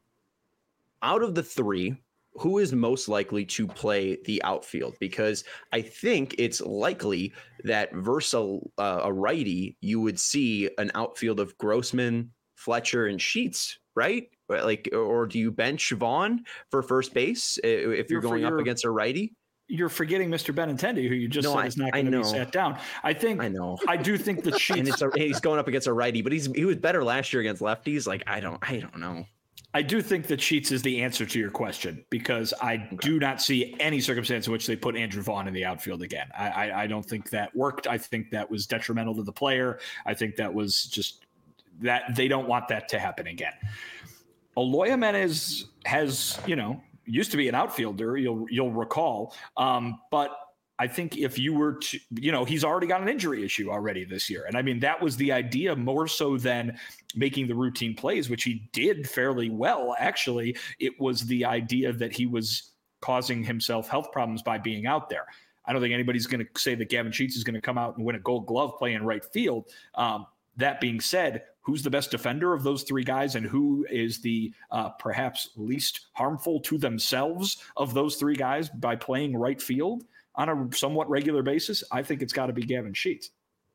Out of the three, who is most likely to play the outfield? Because I think it's likely that versus uh, a righty, you would see an outfield of Grossman, Fletcher, and Sheets, right? Like, or do you bench Vaughn for first base if you're, you're going up against a righty? You're forgetting Mister Benintendi, who you just no, said I, is not going to be sat down. I think. I know. I do think that Sheets. And it's a, he's going up against a righty, but he's he was better last year against lefties. Like I don't, I don't know. I do think that Sheets is the answer to your question, because I okay. do not see any circumstance in which they put Andrew Vaughn in the outfield again. I, I, I don't think that worked. I think that was detrimental to the player. I think that was just that they don't want that to happen again. Eloy Jimenez has, you know, used to be an outfielder, you'll you'll recall, um, but I think if you were to, you know, he's already got an injury issue already this year. And I mean, that was the idea more so than making the routine plays, which he did fairly well. Actually, it was the idea that he was causing himself health problems by being out there. I don't think anybody's going to say that Gavin Sheets is going to come out and win a Gold Glove playing right field. Um, that being said, who's the best defender of those three guys, and who is the uh, perhaps least harmful to themselves of those three guys by playing right field on a somewhat regular basis? I think it's got to be Gavin Sheets.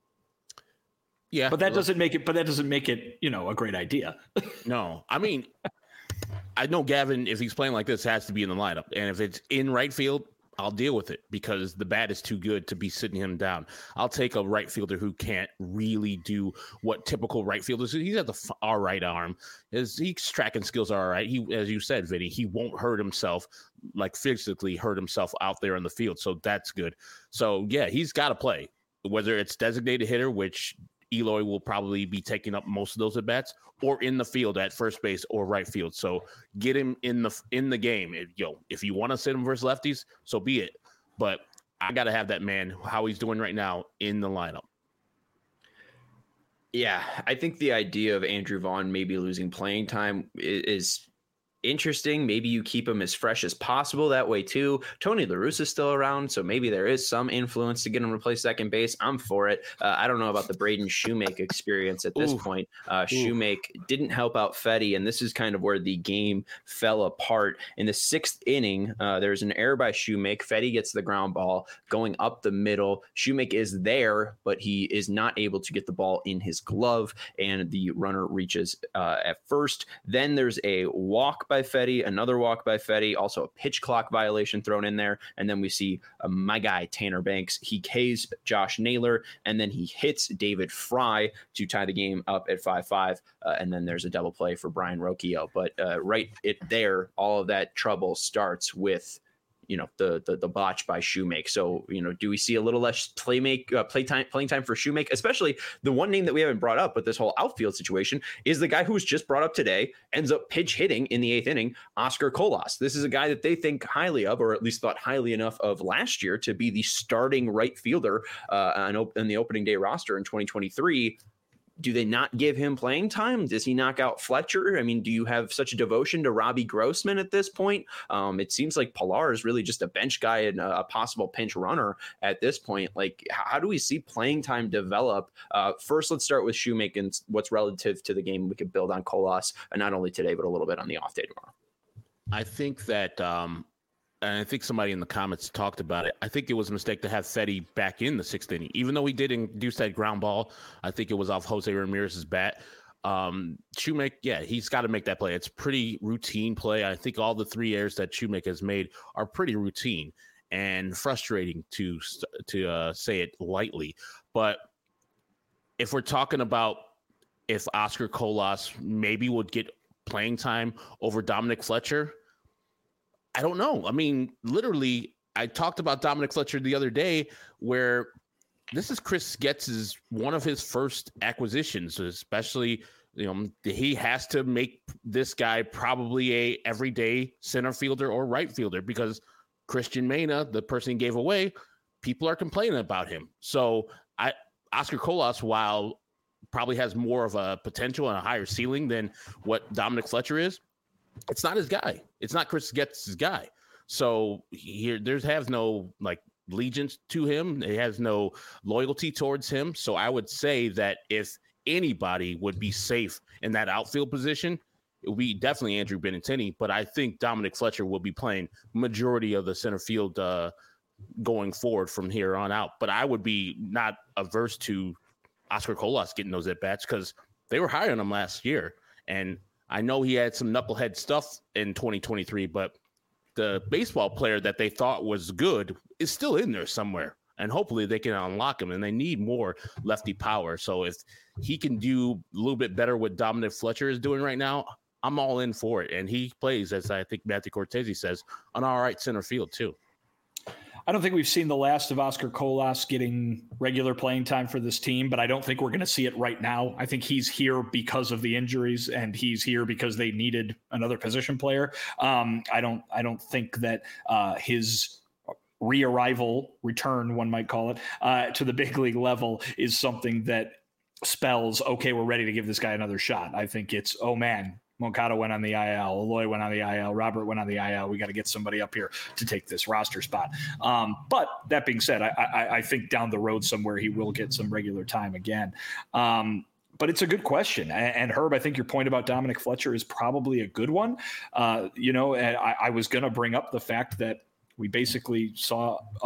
Yeah, but that well, doesn't make it. But that doesn't make it, you know, a great idea. No, I mean, I know Gavin, if he's playing like this, has to be in the lineup, and if it's in right field, I'll deal with it because the bat is too good to be sitting him down. I'll take a right fielder who can't really do what typical right fielders do. He's got the all right arm. His, his tracking skills are all right. He, as you said, Vinny, he won't hurt himself, like physically hurt himself out there on the field. So that's good. So, yeah, he's got to play, whether it's designated hitter, which Eloy will probably be taking up most of those at bats, or in the field at first base or right field. So get him in the in the game. If, yo, if you want to sit him versus lefties, so be it. But I got to have that man, how he's doing right now, in the lineup. Yeah, I think the idea of Andrew Vaughn maybe losing playing time is, is interesting. Maybe you keep him as fresh as possible that way too. Tony La Russa is still around, so maybe there is some influence to get him to play second base. I'm for it. Uh, I don't know about the Braden Shoemake experience at this Ooh. point. Uh, Shoemake didn't help out Fedde, and this is kind of where the game fell apart. In the sixth inning, uh, there's an error by Shoemake. Fedde gets the ground ball going up the middle. Shoemake is there, but he is not able to get the ball in his glove, and the runner reaches uh, at first. Then there's a walk by by Fedde, another walk by Fedde, also a pitch clock violation thrown in there. And then we see uh, my guy, Tanner Banks. He Ks Josh Naylor, and then he hits David Fry to tie the game up at five five. Uh, and then there's a double play for Brian Rocchio. But uh, right it there, all of that trouble starts with you know, the the the botch by Shoemake. So, you know, do we see a little less play make uh, play time playing time for Shoemake? Especially the one name that we haven't brought up with this whole outfield situation is the guy who was just brought up today, ends up pitch hitting in the eighth inning, Oscar Colas. This is a guy that they think highly of, or at least thought highly enough of last year to be the starting right fielder uh, on, op- on the opening day roster in twenty twenty-three. Do they not give him playing time? Does he knock out Fletcher? I mean, do you have such a devotion to Robbie Grossman at this point? Um, it seems like Pilar is really just a bench guy and a, a possible pinch runner at this point. Like, how do we see playing time develop? Uh, first, let's start with Shoemake and what's relative to the game. We could build on Colas, and not only today, but a little bit on the off day tomorrow. I think that, um, and I think somebody in the comments talked about it. I think it was a mistake to have Fedde back in the sixth inning, even though he did induce that ground ball. I think it was off Jose Ramirez's bat. Um, Shoemake, yeah, he's got to make that play. It's pretty routine play. I think all the three errors that Shoemake has made are pretty routine and frustrating to to uh, say it lightly. But if we're talking about if Oscar Colas maybe would get playing time over Dominic Fletcher, I don't know. I mean, literally, I talked about Dominic Fletcher the other day where this is Chris Getz's one of his first acquisitions, especially, you know, he has to make this guy probably a everyday center fielder or right fielder because Christian Mena, the person he gave away, people are complaining about him. So I Oscar Colas, while probably has more of a potential and a higher ceiling than what Dominic Fletcher is, it's not his guy. It's not Chris Getz's guy. So here, there's has no like allegiance to him. It has no loyalty towards him. So I would say that if anybody would be safe in that outfield position, it would be definitely Andrew Benintendi. But I think Dominic Fletcher will be playing majority of the center field uh, going forward from here on out. But I would be not averse to Oscar Colas getting those at bats because they were high on him last year. And I know he had some knucklehead stuff in twenty twenty-three, but the baseball player that they thought was good is still in there somewhere. And hopefully they can unlock him, and they need more lefty power. So if he can do a little bit better what Dominic Fletcher is doing right now, I'm all in for it. And he plays, as I think Matthew Cortese says, on all right center field too. I don't think we've seen the last of Oscar Colas getting regular playing time for this team, but I don't think we're going to see it right now. I think he's here because of the injuries, and he's here because they needed another position player. Um, I don't, I don't think that uh, his re-arrival, return, one might call it, uh, to the big league level is something that spells, okay, we're ready to give this guy another shot. I think it's, oh man, Moncada went on the I L, Eloy went on the I L, Robert went on the I L. We got to get somebody up here to take this roster spot. Um, but that being said, I, I, I think down the road somewhere he will get some regular time again. Um, but it's a good question. And, and Herb, I think your point about Dominic Fletcher is probably a good one. Uh, you know, I, I was going to bring up the fact that we basically saw a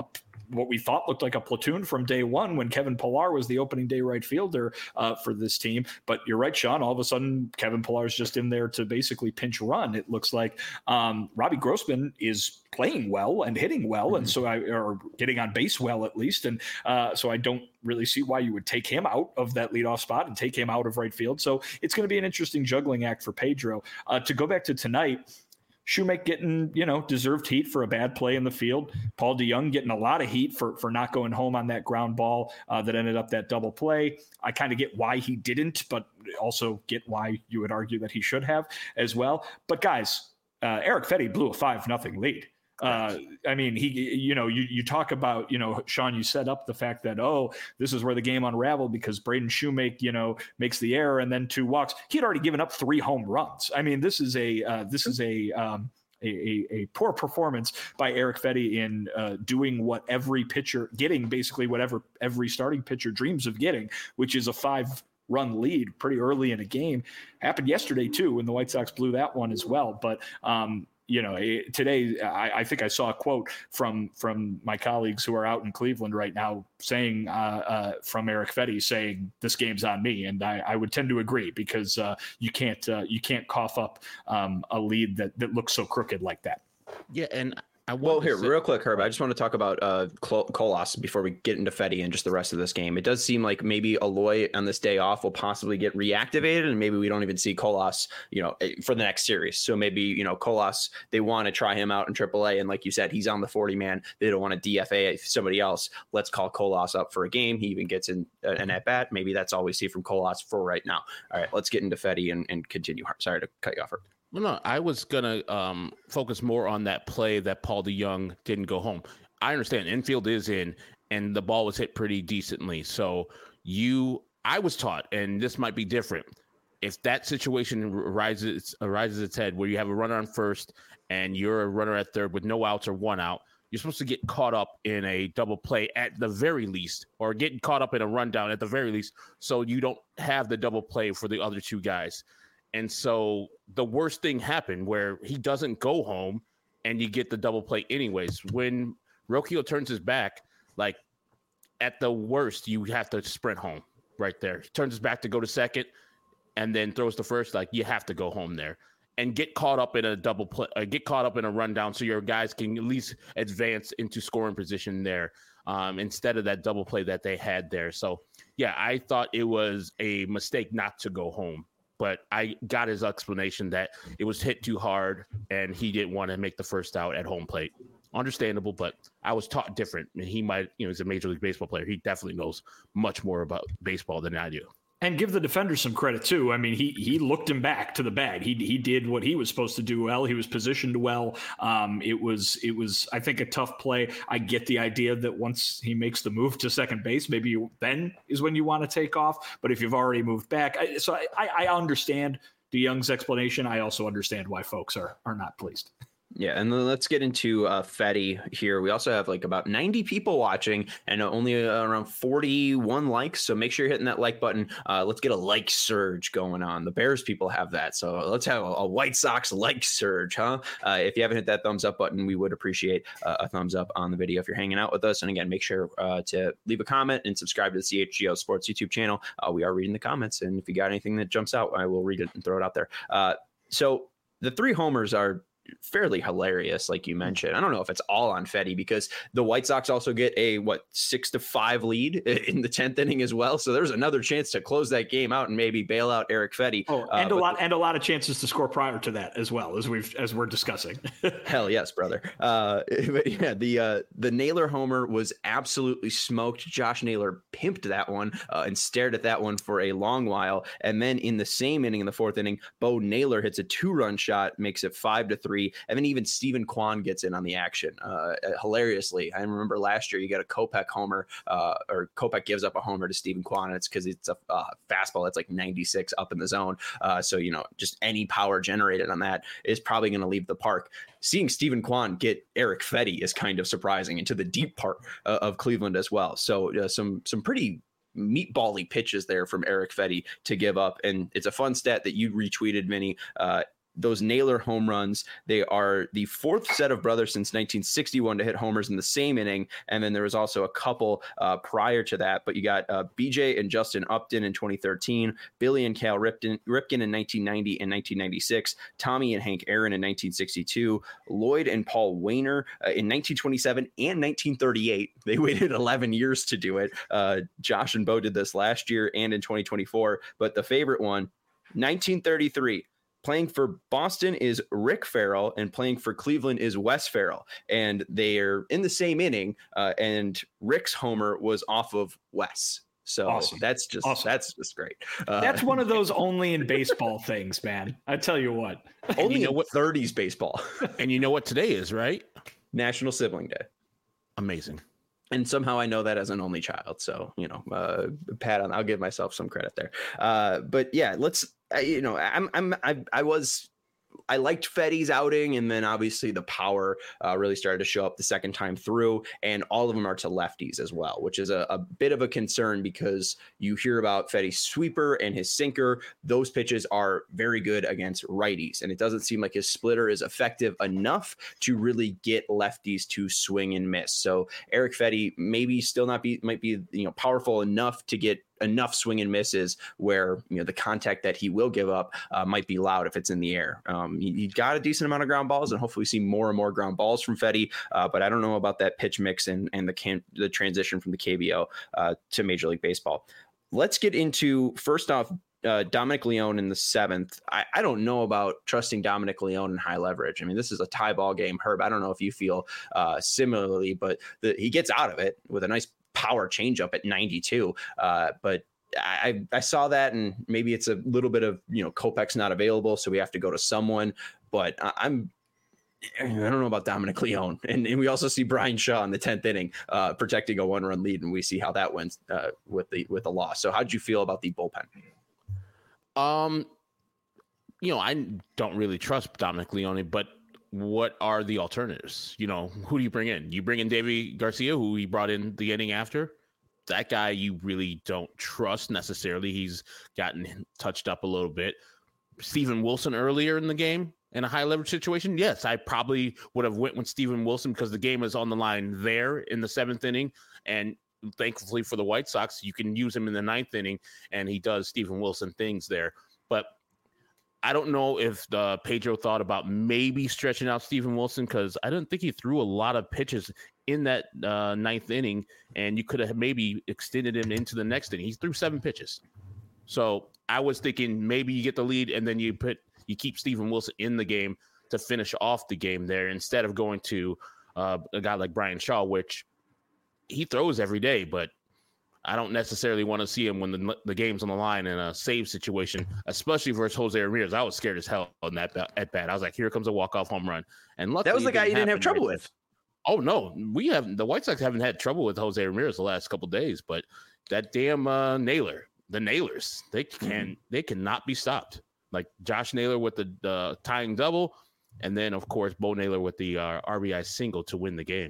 what we thought looked like a platoon from day one when Kevin Pillar was the opening day right fielder uh, for this team. But you're right, Sean, all of a sudden Kevin Pillar is just in there to basically pinch run. It looks like um, Robbie Grossman is playing well and hitting well. Mm-hmm. And so I, or getting on base well, at least. And uh, so I don't really see why you would take him out of that leadoff spot and take him out of right field. So it's going to be an interesting juggling act for Pedro. Uh, to go back to tonight, Shoemaker getting, you know, deserved heat for a bad play in the field. Paul DeJong getting a lot of heat for, for not going home on that ground ball uh, that ended up that double play. I kind of get why he didn't, but also get why you would argue that he should have as well. But guys, uh, Erick Fedde blew a five nothing lead. Uh, I mean, he, you know, you, you talk about, you know, Sean, you set up the fact that, oh, this is where the game unraveled because Braden Shoemaker, you know, makes the error and then two walks. He had already given up three home runs. I mean, this is a, uh, this is a, um, A, a, a poor performance by Erick Fedde in uh, doing what every pitcher, getting basically whatever every starting pitcher dreams of getting, which is a five run lead pretty early in a game. Happened yesterday too, when the White Sox blew that one as well. But, um, you know, today I, I think I saw a quote from from my colleagues who are out in Cleveland right now saying uh, uh, from Erick Fedde saying this game's on me, and I, I would tend to agree because uh, you can't uh, you can't cough up um, a lead that that looks so crooked like that. Yeah, and I well, here, say- real quick, Herb, I just want to talk about uh, Colas before we get into Fedde and just the rest of this game. It does seem like maybe Eloy on this day off will possibly get reactivated, and maybe we don't even see Colas, you know, for the next series. So maybe, you know, Colas, they want to try him out in triple A, and like you said, he's on the forty man. They don't want to D F A somebody else. Let's call Colas up for a game. He even gets in uh, an at-bat. Maybe that's all we see from Colas for right now. All right, let's get into Fedde and, and continue. Sorry to cut you off, Herb. Well, no, I was going to um, focus more on that play that Paul DeJong didn't go home. I understand infield is in and the ball was hit pretty decently. So you, I was taught, and this might be different. If that situation arises, arises its head where you have a runner on first and you're a runner at third with no outs or one out, you're supposed to get caught up in a double play at the very least, or getting caught up in a rundown at the very least. So you don't have the double play for the other two guys. And so the worst thing happened where he doesn't go home and you get the double play anyways. When Rocchio turns his back, like at the worst, you have to sprint home right there. He turns his back to go to second and then throws the first, like you have to go home there and get caught up in a double play, uh, get caught up in a rundown so your guys can at least advance into scoring position there um, instead of that double play that they had there. So, yeah, I thought it was a mistake not to go home. But I got his explanation that it was hit too hard and he didn't want to make the first out at home plate. Understandable, but I was taught different. And he might, you know, he's a Major League Baseball player. He definitely knows much more about baseball than I do. And give the defender some credit too. I mean, he he looked him back to the bag. He he did what he was supposed to do well. He was positioned well. Um, it was it was I think a tough play. I get the idea that once he makes the move to second base, maybe you, then is when you want to take off. But if you've already moved back, I, so I, I understand DeJong's explanation. I also understand why folks are are not pleased. Yeah, and then let's get into uh, Fedde here. We also have like about ninety people watching and only uh, around forty-one likes. So make sure you're hitting that like button. Uh, let's get a like surge going on. The Bears people have that. So let's have a, a White Sox like surge, huh? Uh, if you haven't hit that thumbs up button, we would appreciate uh, a thumbs up on the video if you're hanging out with us. And again, make sure uh, to leave a comment and subscribe to the C H G O Sports YouTube channel. Uh, we are reading the comments. And if you got anything that jumps out, I will read it and throw it out there. Uh, so the three homers are fairly hilarious, like you mentioned. I don't know if it's all on Fedde because the White Sox also get a what six to five lead in the tenth inning as well. So there's another chance to close that game out and maybe bail out Erick Fedde. Oh, and uh, a lot and a lot of chances to score prior to that as well as we've as we're discussing. Hell yes, brother. Uh, but yeah, the uh, the Naylor homer was absolutely smoked. Josh Naylor pimped that one uh, and stared at that one for a long while. And then in the same inning, in the fourth inning, Bo Naylor hits a two run shot, makes it five to three. And then even Stephen Kwan gets in on the action. Uh, hilariously, I remember last year you got a Kopech homer, uh, or Kopech gives up a homer to Stephen Kwan, and it's because it's a uh, fastball that's like ninety-six up in the zone. Uh, so, you know, just any power generated on that is probably going to leave the park. Seeing Stephen Kwan get Erick Fedde is kind of surprising into the deep part uh, of Cleveland as well. So uh, some some pretty meatball-y pitches there from Erick Fedde to give up. And it's a fun stat that you retweeted, Vinny. Uh, those Naylor home runs. They are the fourth set of brothers since nineteen sixty-one to hit homers in the same inning. And then there was also a couple uh, prior to that. But you got uh, B J and Justin Upton in twenty thirteen, Billy and Cal Ripken, Ripken in nineteen ninety and nineteen ninety-six, Tommy and Hank Aaron in nineteen sixty-two, Lloyd and Paul Wainer uh, in nineteen twenty-seven and nineteen thirty-eight. They waited eleven years to do it. Uh, Josh and Bo did this last year and in twenty twenty-four. But the favorite one, nineteen thirty-three. Playing for Boston is Rick Farrell, and playing for Cleveland is Wes Farrell. And they're in the same inning, uh, and Rick's homer was off of Wes. So awesome. that's just awesome. that's just great. Uh, that's one of those only in baseball things, man. I tell you what. Only you know in what, thirties baseball. And you know what today is, right? National Sibling Day. Amazing. And somehow I know that as an only child. So, you know, uh, pat on, I'll give myself some credit there. Uh, but yeah, let's, uh, you know, I'm, I'm, I, I was, I liked Feddy's outing, and then obviously the power uh, really started to show up the second time through, and all of them are to lefties as well, which is a, a bit of a concern because you hear about Feddy's sweeper and his sinker. Those pitches are very good against righties, and it doesn't seem like his splitter is effective enough to really get lefties to swing and miss. So Erick Fedde maybe still not be, might be, you know, powerful enough to get enough swing and misses where, you know, the contact that he will give up uh, might be loud if it's in the air. Um, he, he got a decent amount of ground balls, and hopefully we see more and more ground balls from Fedde. Uh, but I don't know about that pitch mix and, and the can, the transition from the K B O uh, to Major League Baseball. Let's get into, first off, uh, Dominic Leone in the seventh. I, I don't know about trusting Dominic Leone in high leverage. I mean, this is a tie ball game. Herb, I don't know if you feel uh, similarly, but the, he gets out of it with a nice power changeup at ninety-two. Uh, but I, I saw that, and maybe it's a little bit of, you know, Kopech's not available, so we have to go to someone. But I, I'm, I don't know about Dominic Leone. And, and we also see Brian Shaw in the tenth inning uh, protecting a one-run lead, and we see how that went uh, with the with the loss. So how'd you feel about the bullpen? Um, you know, I don't really trust Dominic Leone, but what are the alternatives? You know, who do you bring in? You bring in Davy Garcia, who he brought in the inning after. That guy you really don't trust necessarily. He's gotten touched up a little bit. Steven Wilson earlier in the game in a high leverage situation. Yes, I probably would have went with Steven Wilson because the game is on the line there in the seventh inning. And thankfully for the White Sox, you can use him in the ninth inning, and he does Steven Wilson things there. But I don't know if the Pedro thought about maybe stretching out Steven Wilson, because I don't think he threw a lot of pitches in that uh, ninth inning, and you could have maybe extended him into the next inning. He threw seven pitches. So I was thinking maybe you get the lead and then you put you keep Steven Wilson in the game to finish off the game there instead of going to uh, a guy like Brian Shaw, which he throws every day, but I don't necessarily want to see him when the the game's on the line in a save situation, especially versus Jose Ramirez. I was scared as hell on that at bat. I was like, here comes a walk-off home run. And luckily, that was the guy you didn't have trouble with. Oh, no. We have the White Sox haven't had trouble with Jose Ramirez the last couple of days, but that damn uh, Naylor, the Naylors, they can mm-hmm. they cannot be stopped. Like Josh Naylor with the, the tying double, and then, of course, Bo Naylor with the uh, R B I single to win the game.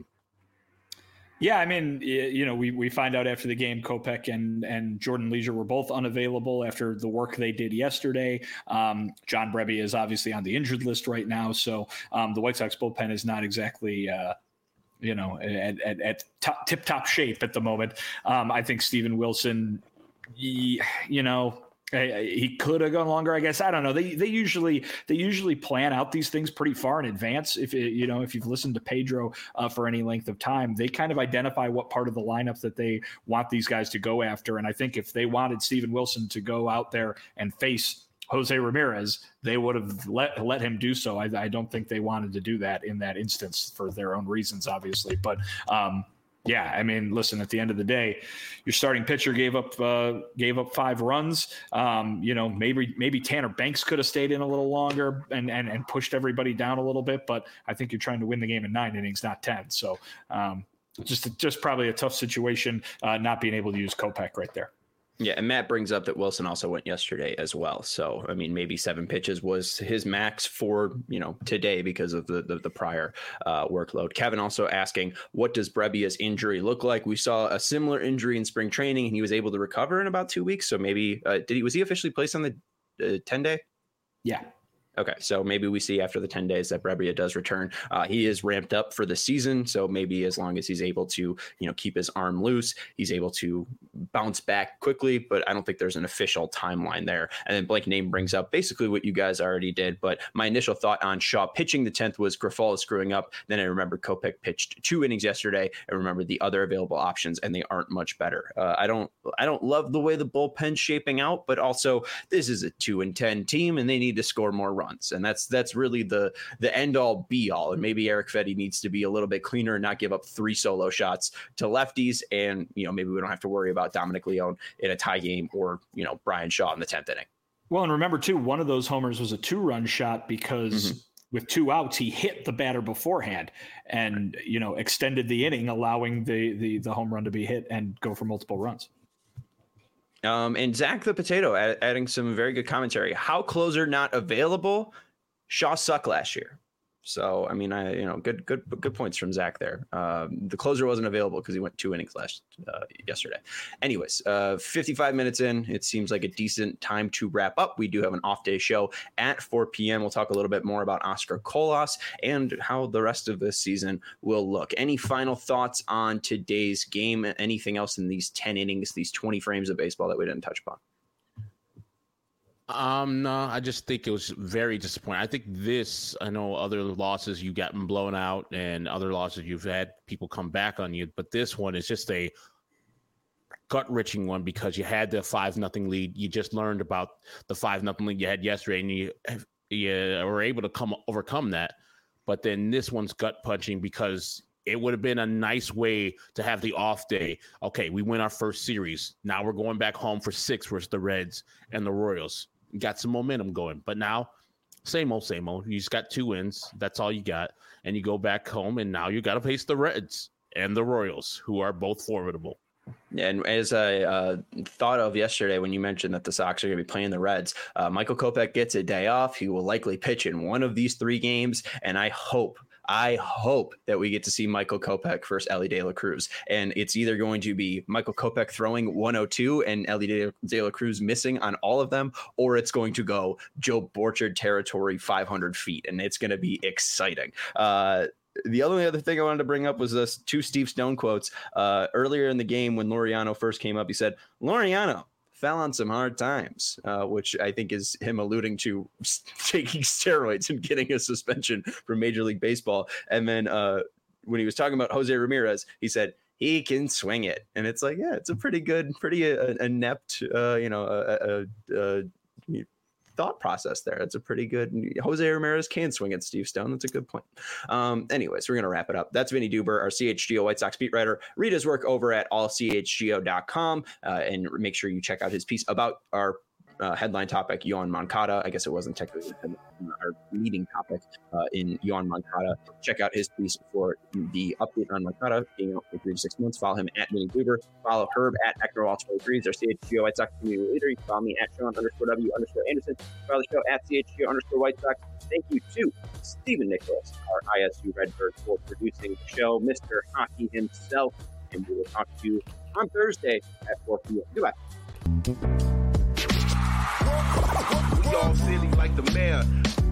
Yeah, I mean, you know, we, we find out after the game, Kopech and, and Jordan Leisure were both unavailable after the work they did yesterday. Um, John Brebbia is obviously on the injured list right now. So um, the White Sox bullpen is not exactly, uh, you know, at, at, at top, tip-top shape at the moment. Um, I think Steven Wilson, he, you know, he could have gone longer, I guess. I don't know. They they usually they usually plan out these things pretty far in advance. If it, you know, if you've listened to Pedro uh, for any length of time, they kind of identify what part of the lineup that they want these guys to go after. And I think if they wanted Steven Wilson to go out there and face Jose Ramirez, they would have let let him do so. I, I don't think they wanted to do that in that instance for their own reasons, obviously. But um, yeah, I mean, listen, at the end of the day, your starting pitcher gave up uh, gave up five runs. Um, you know, maybe maybe Tanner Banks could have stayed in a little longer and, and and pushed everybody down a little bit. But I think you're trying to win the game in nine innings, not ten. So um, just just probably a tough situation uh, not being able to use Kopech right there. Yeah, and Matt brings up that Wilson also went yesterday as well. So, I mean, maybe seven pitches was his max for, you know, today because of the the, the prior uh, workload. Kevin also asking, what does Brebbia's injury look like? We saw a similar injury in spring training, and he was able to recover in about two weeks. So maybe, uh, did he was he officially placed on the uh, ten-day? Yeah. Okay, so maybe we see after the ten days that Brebbia does return. Uh, he is ramped up for the season, so maybe as long as he's able to, you know, keep his arm loose, he's able to bounce back quickly, but I don't think there's an official timeline there. And then Blank Name brings up basically what you guys already did, but my initial thought on Shaw pitching the tenth was Grifol screwing up. Then I remembered Kopech pitched two innings yesterday. I remembered the other available options, and they aren't much better. Uh, I don't I don't love the way the bullpen's shaping out, but also this is a two and ten team, and they need to score more runs. And that's that's really the the end all be all. And maybe Erick Fedde needs to be a little bit cleaner and not give up three solo shots to lefties. And, you know, maybe we don't have to worry about Dominic Leone in a tie game or, you know, Brian Shaw in the tenth inning. Well, and remember, too, one of those homers was a two run shot because mm-hmm. with two outs, he hit the batter beforehand and, you know, extended the inning, allowing the, the, the home run to be hit and go for multiple runs. Um, and Zach the Potato add, adding some very good commentary. How closer not available? Shaw sucked last year. So, I mean, I, you know, good, good, good points from Zach there. Um, the closer wasn't available because he went two innings last uh, yesterday. Anyways, uh, fifty-five minutes in, it seems like a decent time to wrap up. We do have an off day show at four p.m. We'll talk a little bit more about Oscar Colas and how the rest of this season will look. Any final thoughts on today's game? Anything else in these ten innings, these twenty frames of baseball that we didn't touch upon? Um, no, I just think it was very disappointing. I think this, I know other losses you've gotten blown out and other losses you've had people come back on you, but this one is just a gut-wrenching one because you had the five nothing lead. You just learned about the five nothing lead you had yesterday, and you, you were able to come overcome that. But then this one's gut-punching because it would have been a nice way to have the off day. Okay, we win our first series. Now we're going back home for six versus the Reds and the Royals. Got some momentum going, but now same old, same old. You just got two wins. That's all you got. And you go back home, and now you got to face the Reds and the Royals, who are both formidable. And as I uh, thought of yesterday when you mentioned that the Sox are going to be playing the Reds, uh, Michael Kopech gets a day off. He will likely pitch in one of these three games, and I hope I hope that we get to see Michael Kopech versus Elly De La Cruz. And it's either going to be Michael Kopech throwing one oh two and Elly De La Cruz missing on all of them, or it's going to go Joe Borchard territory five hundred feet. And it's going to be exciting. Uh, The only other thing I wanted to bring up was this two Steve Stone quotes. Uh, earlier in the game when Laureano first came up, he said, Laureano fell on some hard times, uh, which I think is him alluding to taking steroids and getting a suspension from Major League Baseball. And then uh, when he was talking about Jose Ramirez, he said, he can swing it. And it's like, yeah, it's a pretty good, pretty uh, inept, uh, you know, uh, uh, uh, thought process there. It's a pretty good. Jose Ramirez can swing at Steve Stone. That's a good point. Um, anyways, we're going to wrap it up. That's Vinny Duber, our C H G O White Sox beat writer. Read his work over at all c h g o dot com uh, and make sure you check out his piece about our uh, headline topic, Yoan Moncada. I guess it wasn't technically our leading topic uh, in Yoan Moncada. Check out his piece for the update on Moncada being out for three to six months. Follow him at Vinny Duber. Follow Herb at Ector All twenty-three. He's our C H G O White Sox community leader. You can follow me at Sean underscore W underscore Anderson. Follow the show at C H G O underscore White Sox. Thank you to Stephen Nicholas, our I S U Redbird, for producing the show, Mister Hockey himself. And we will talk to you on Thursday at four p.m. Goodbye. We all silly like the mayor.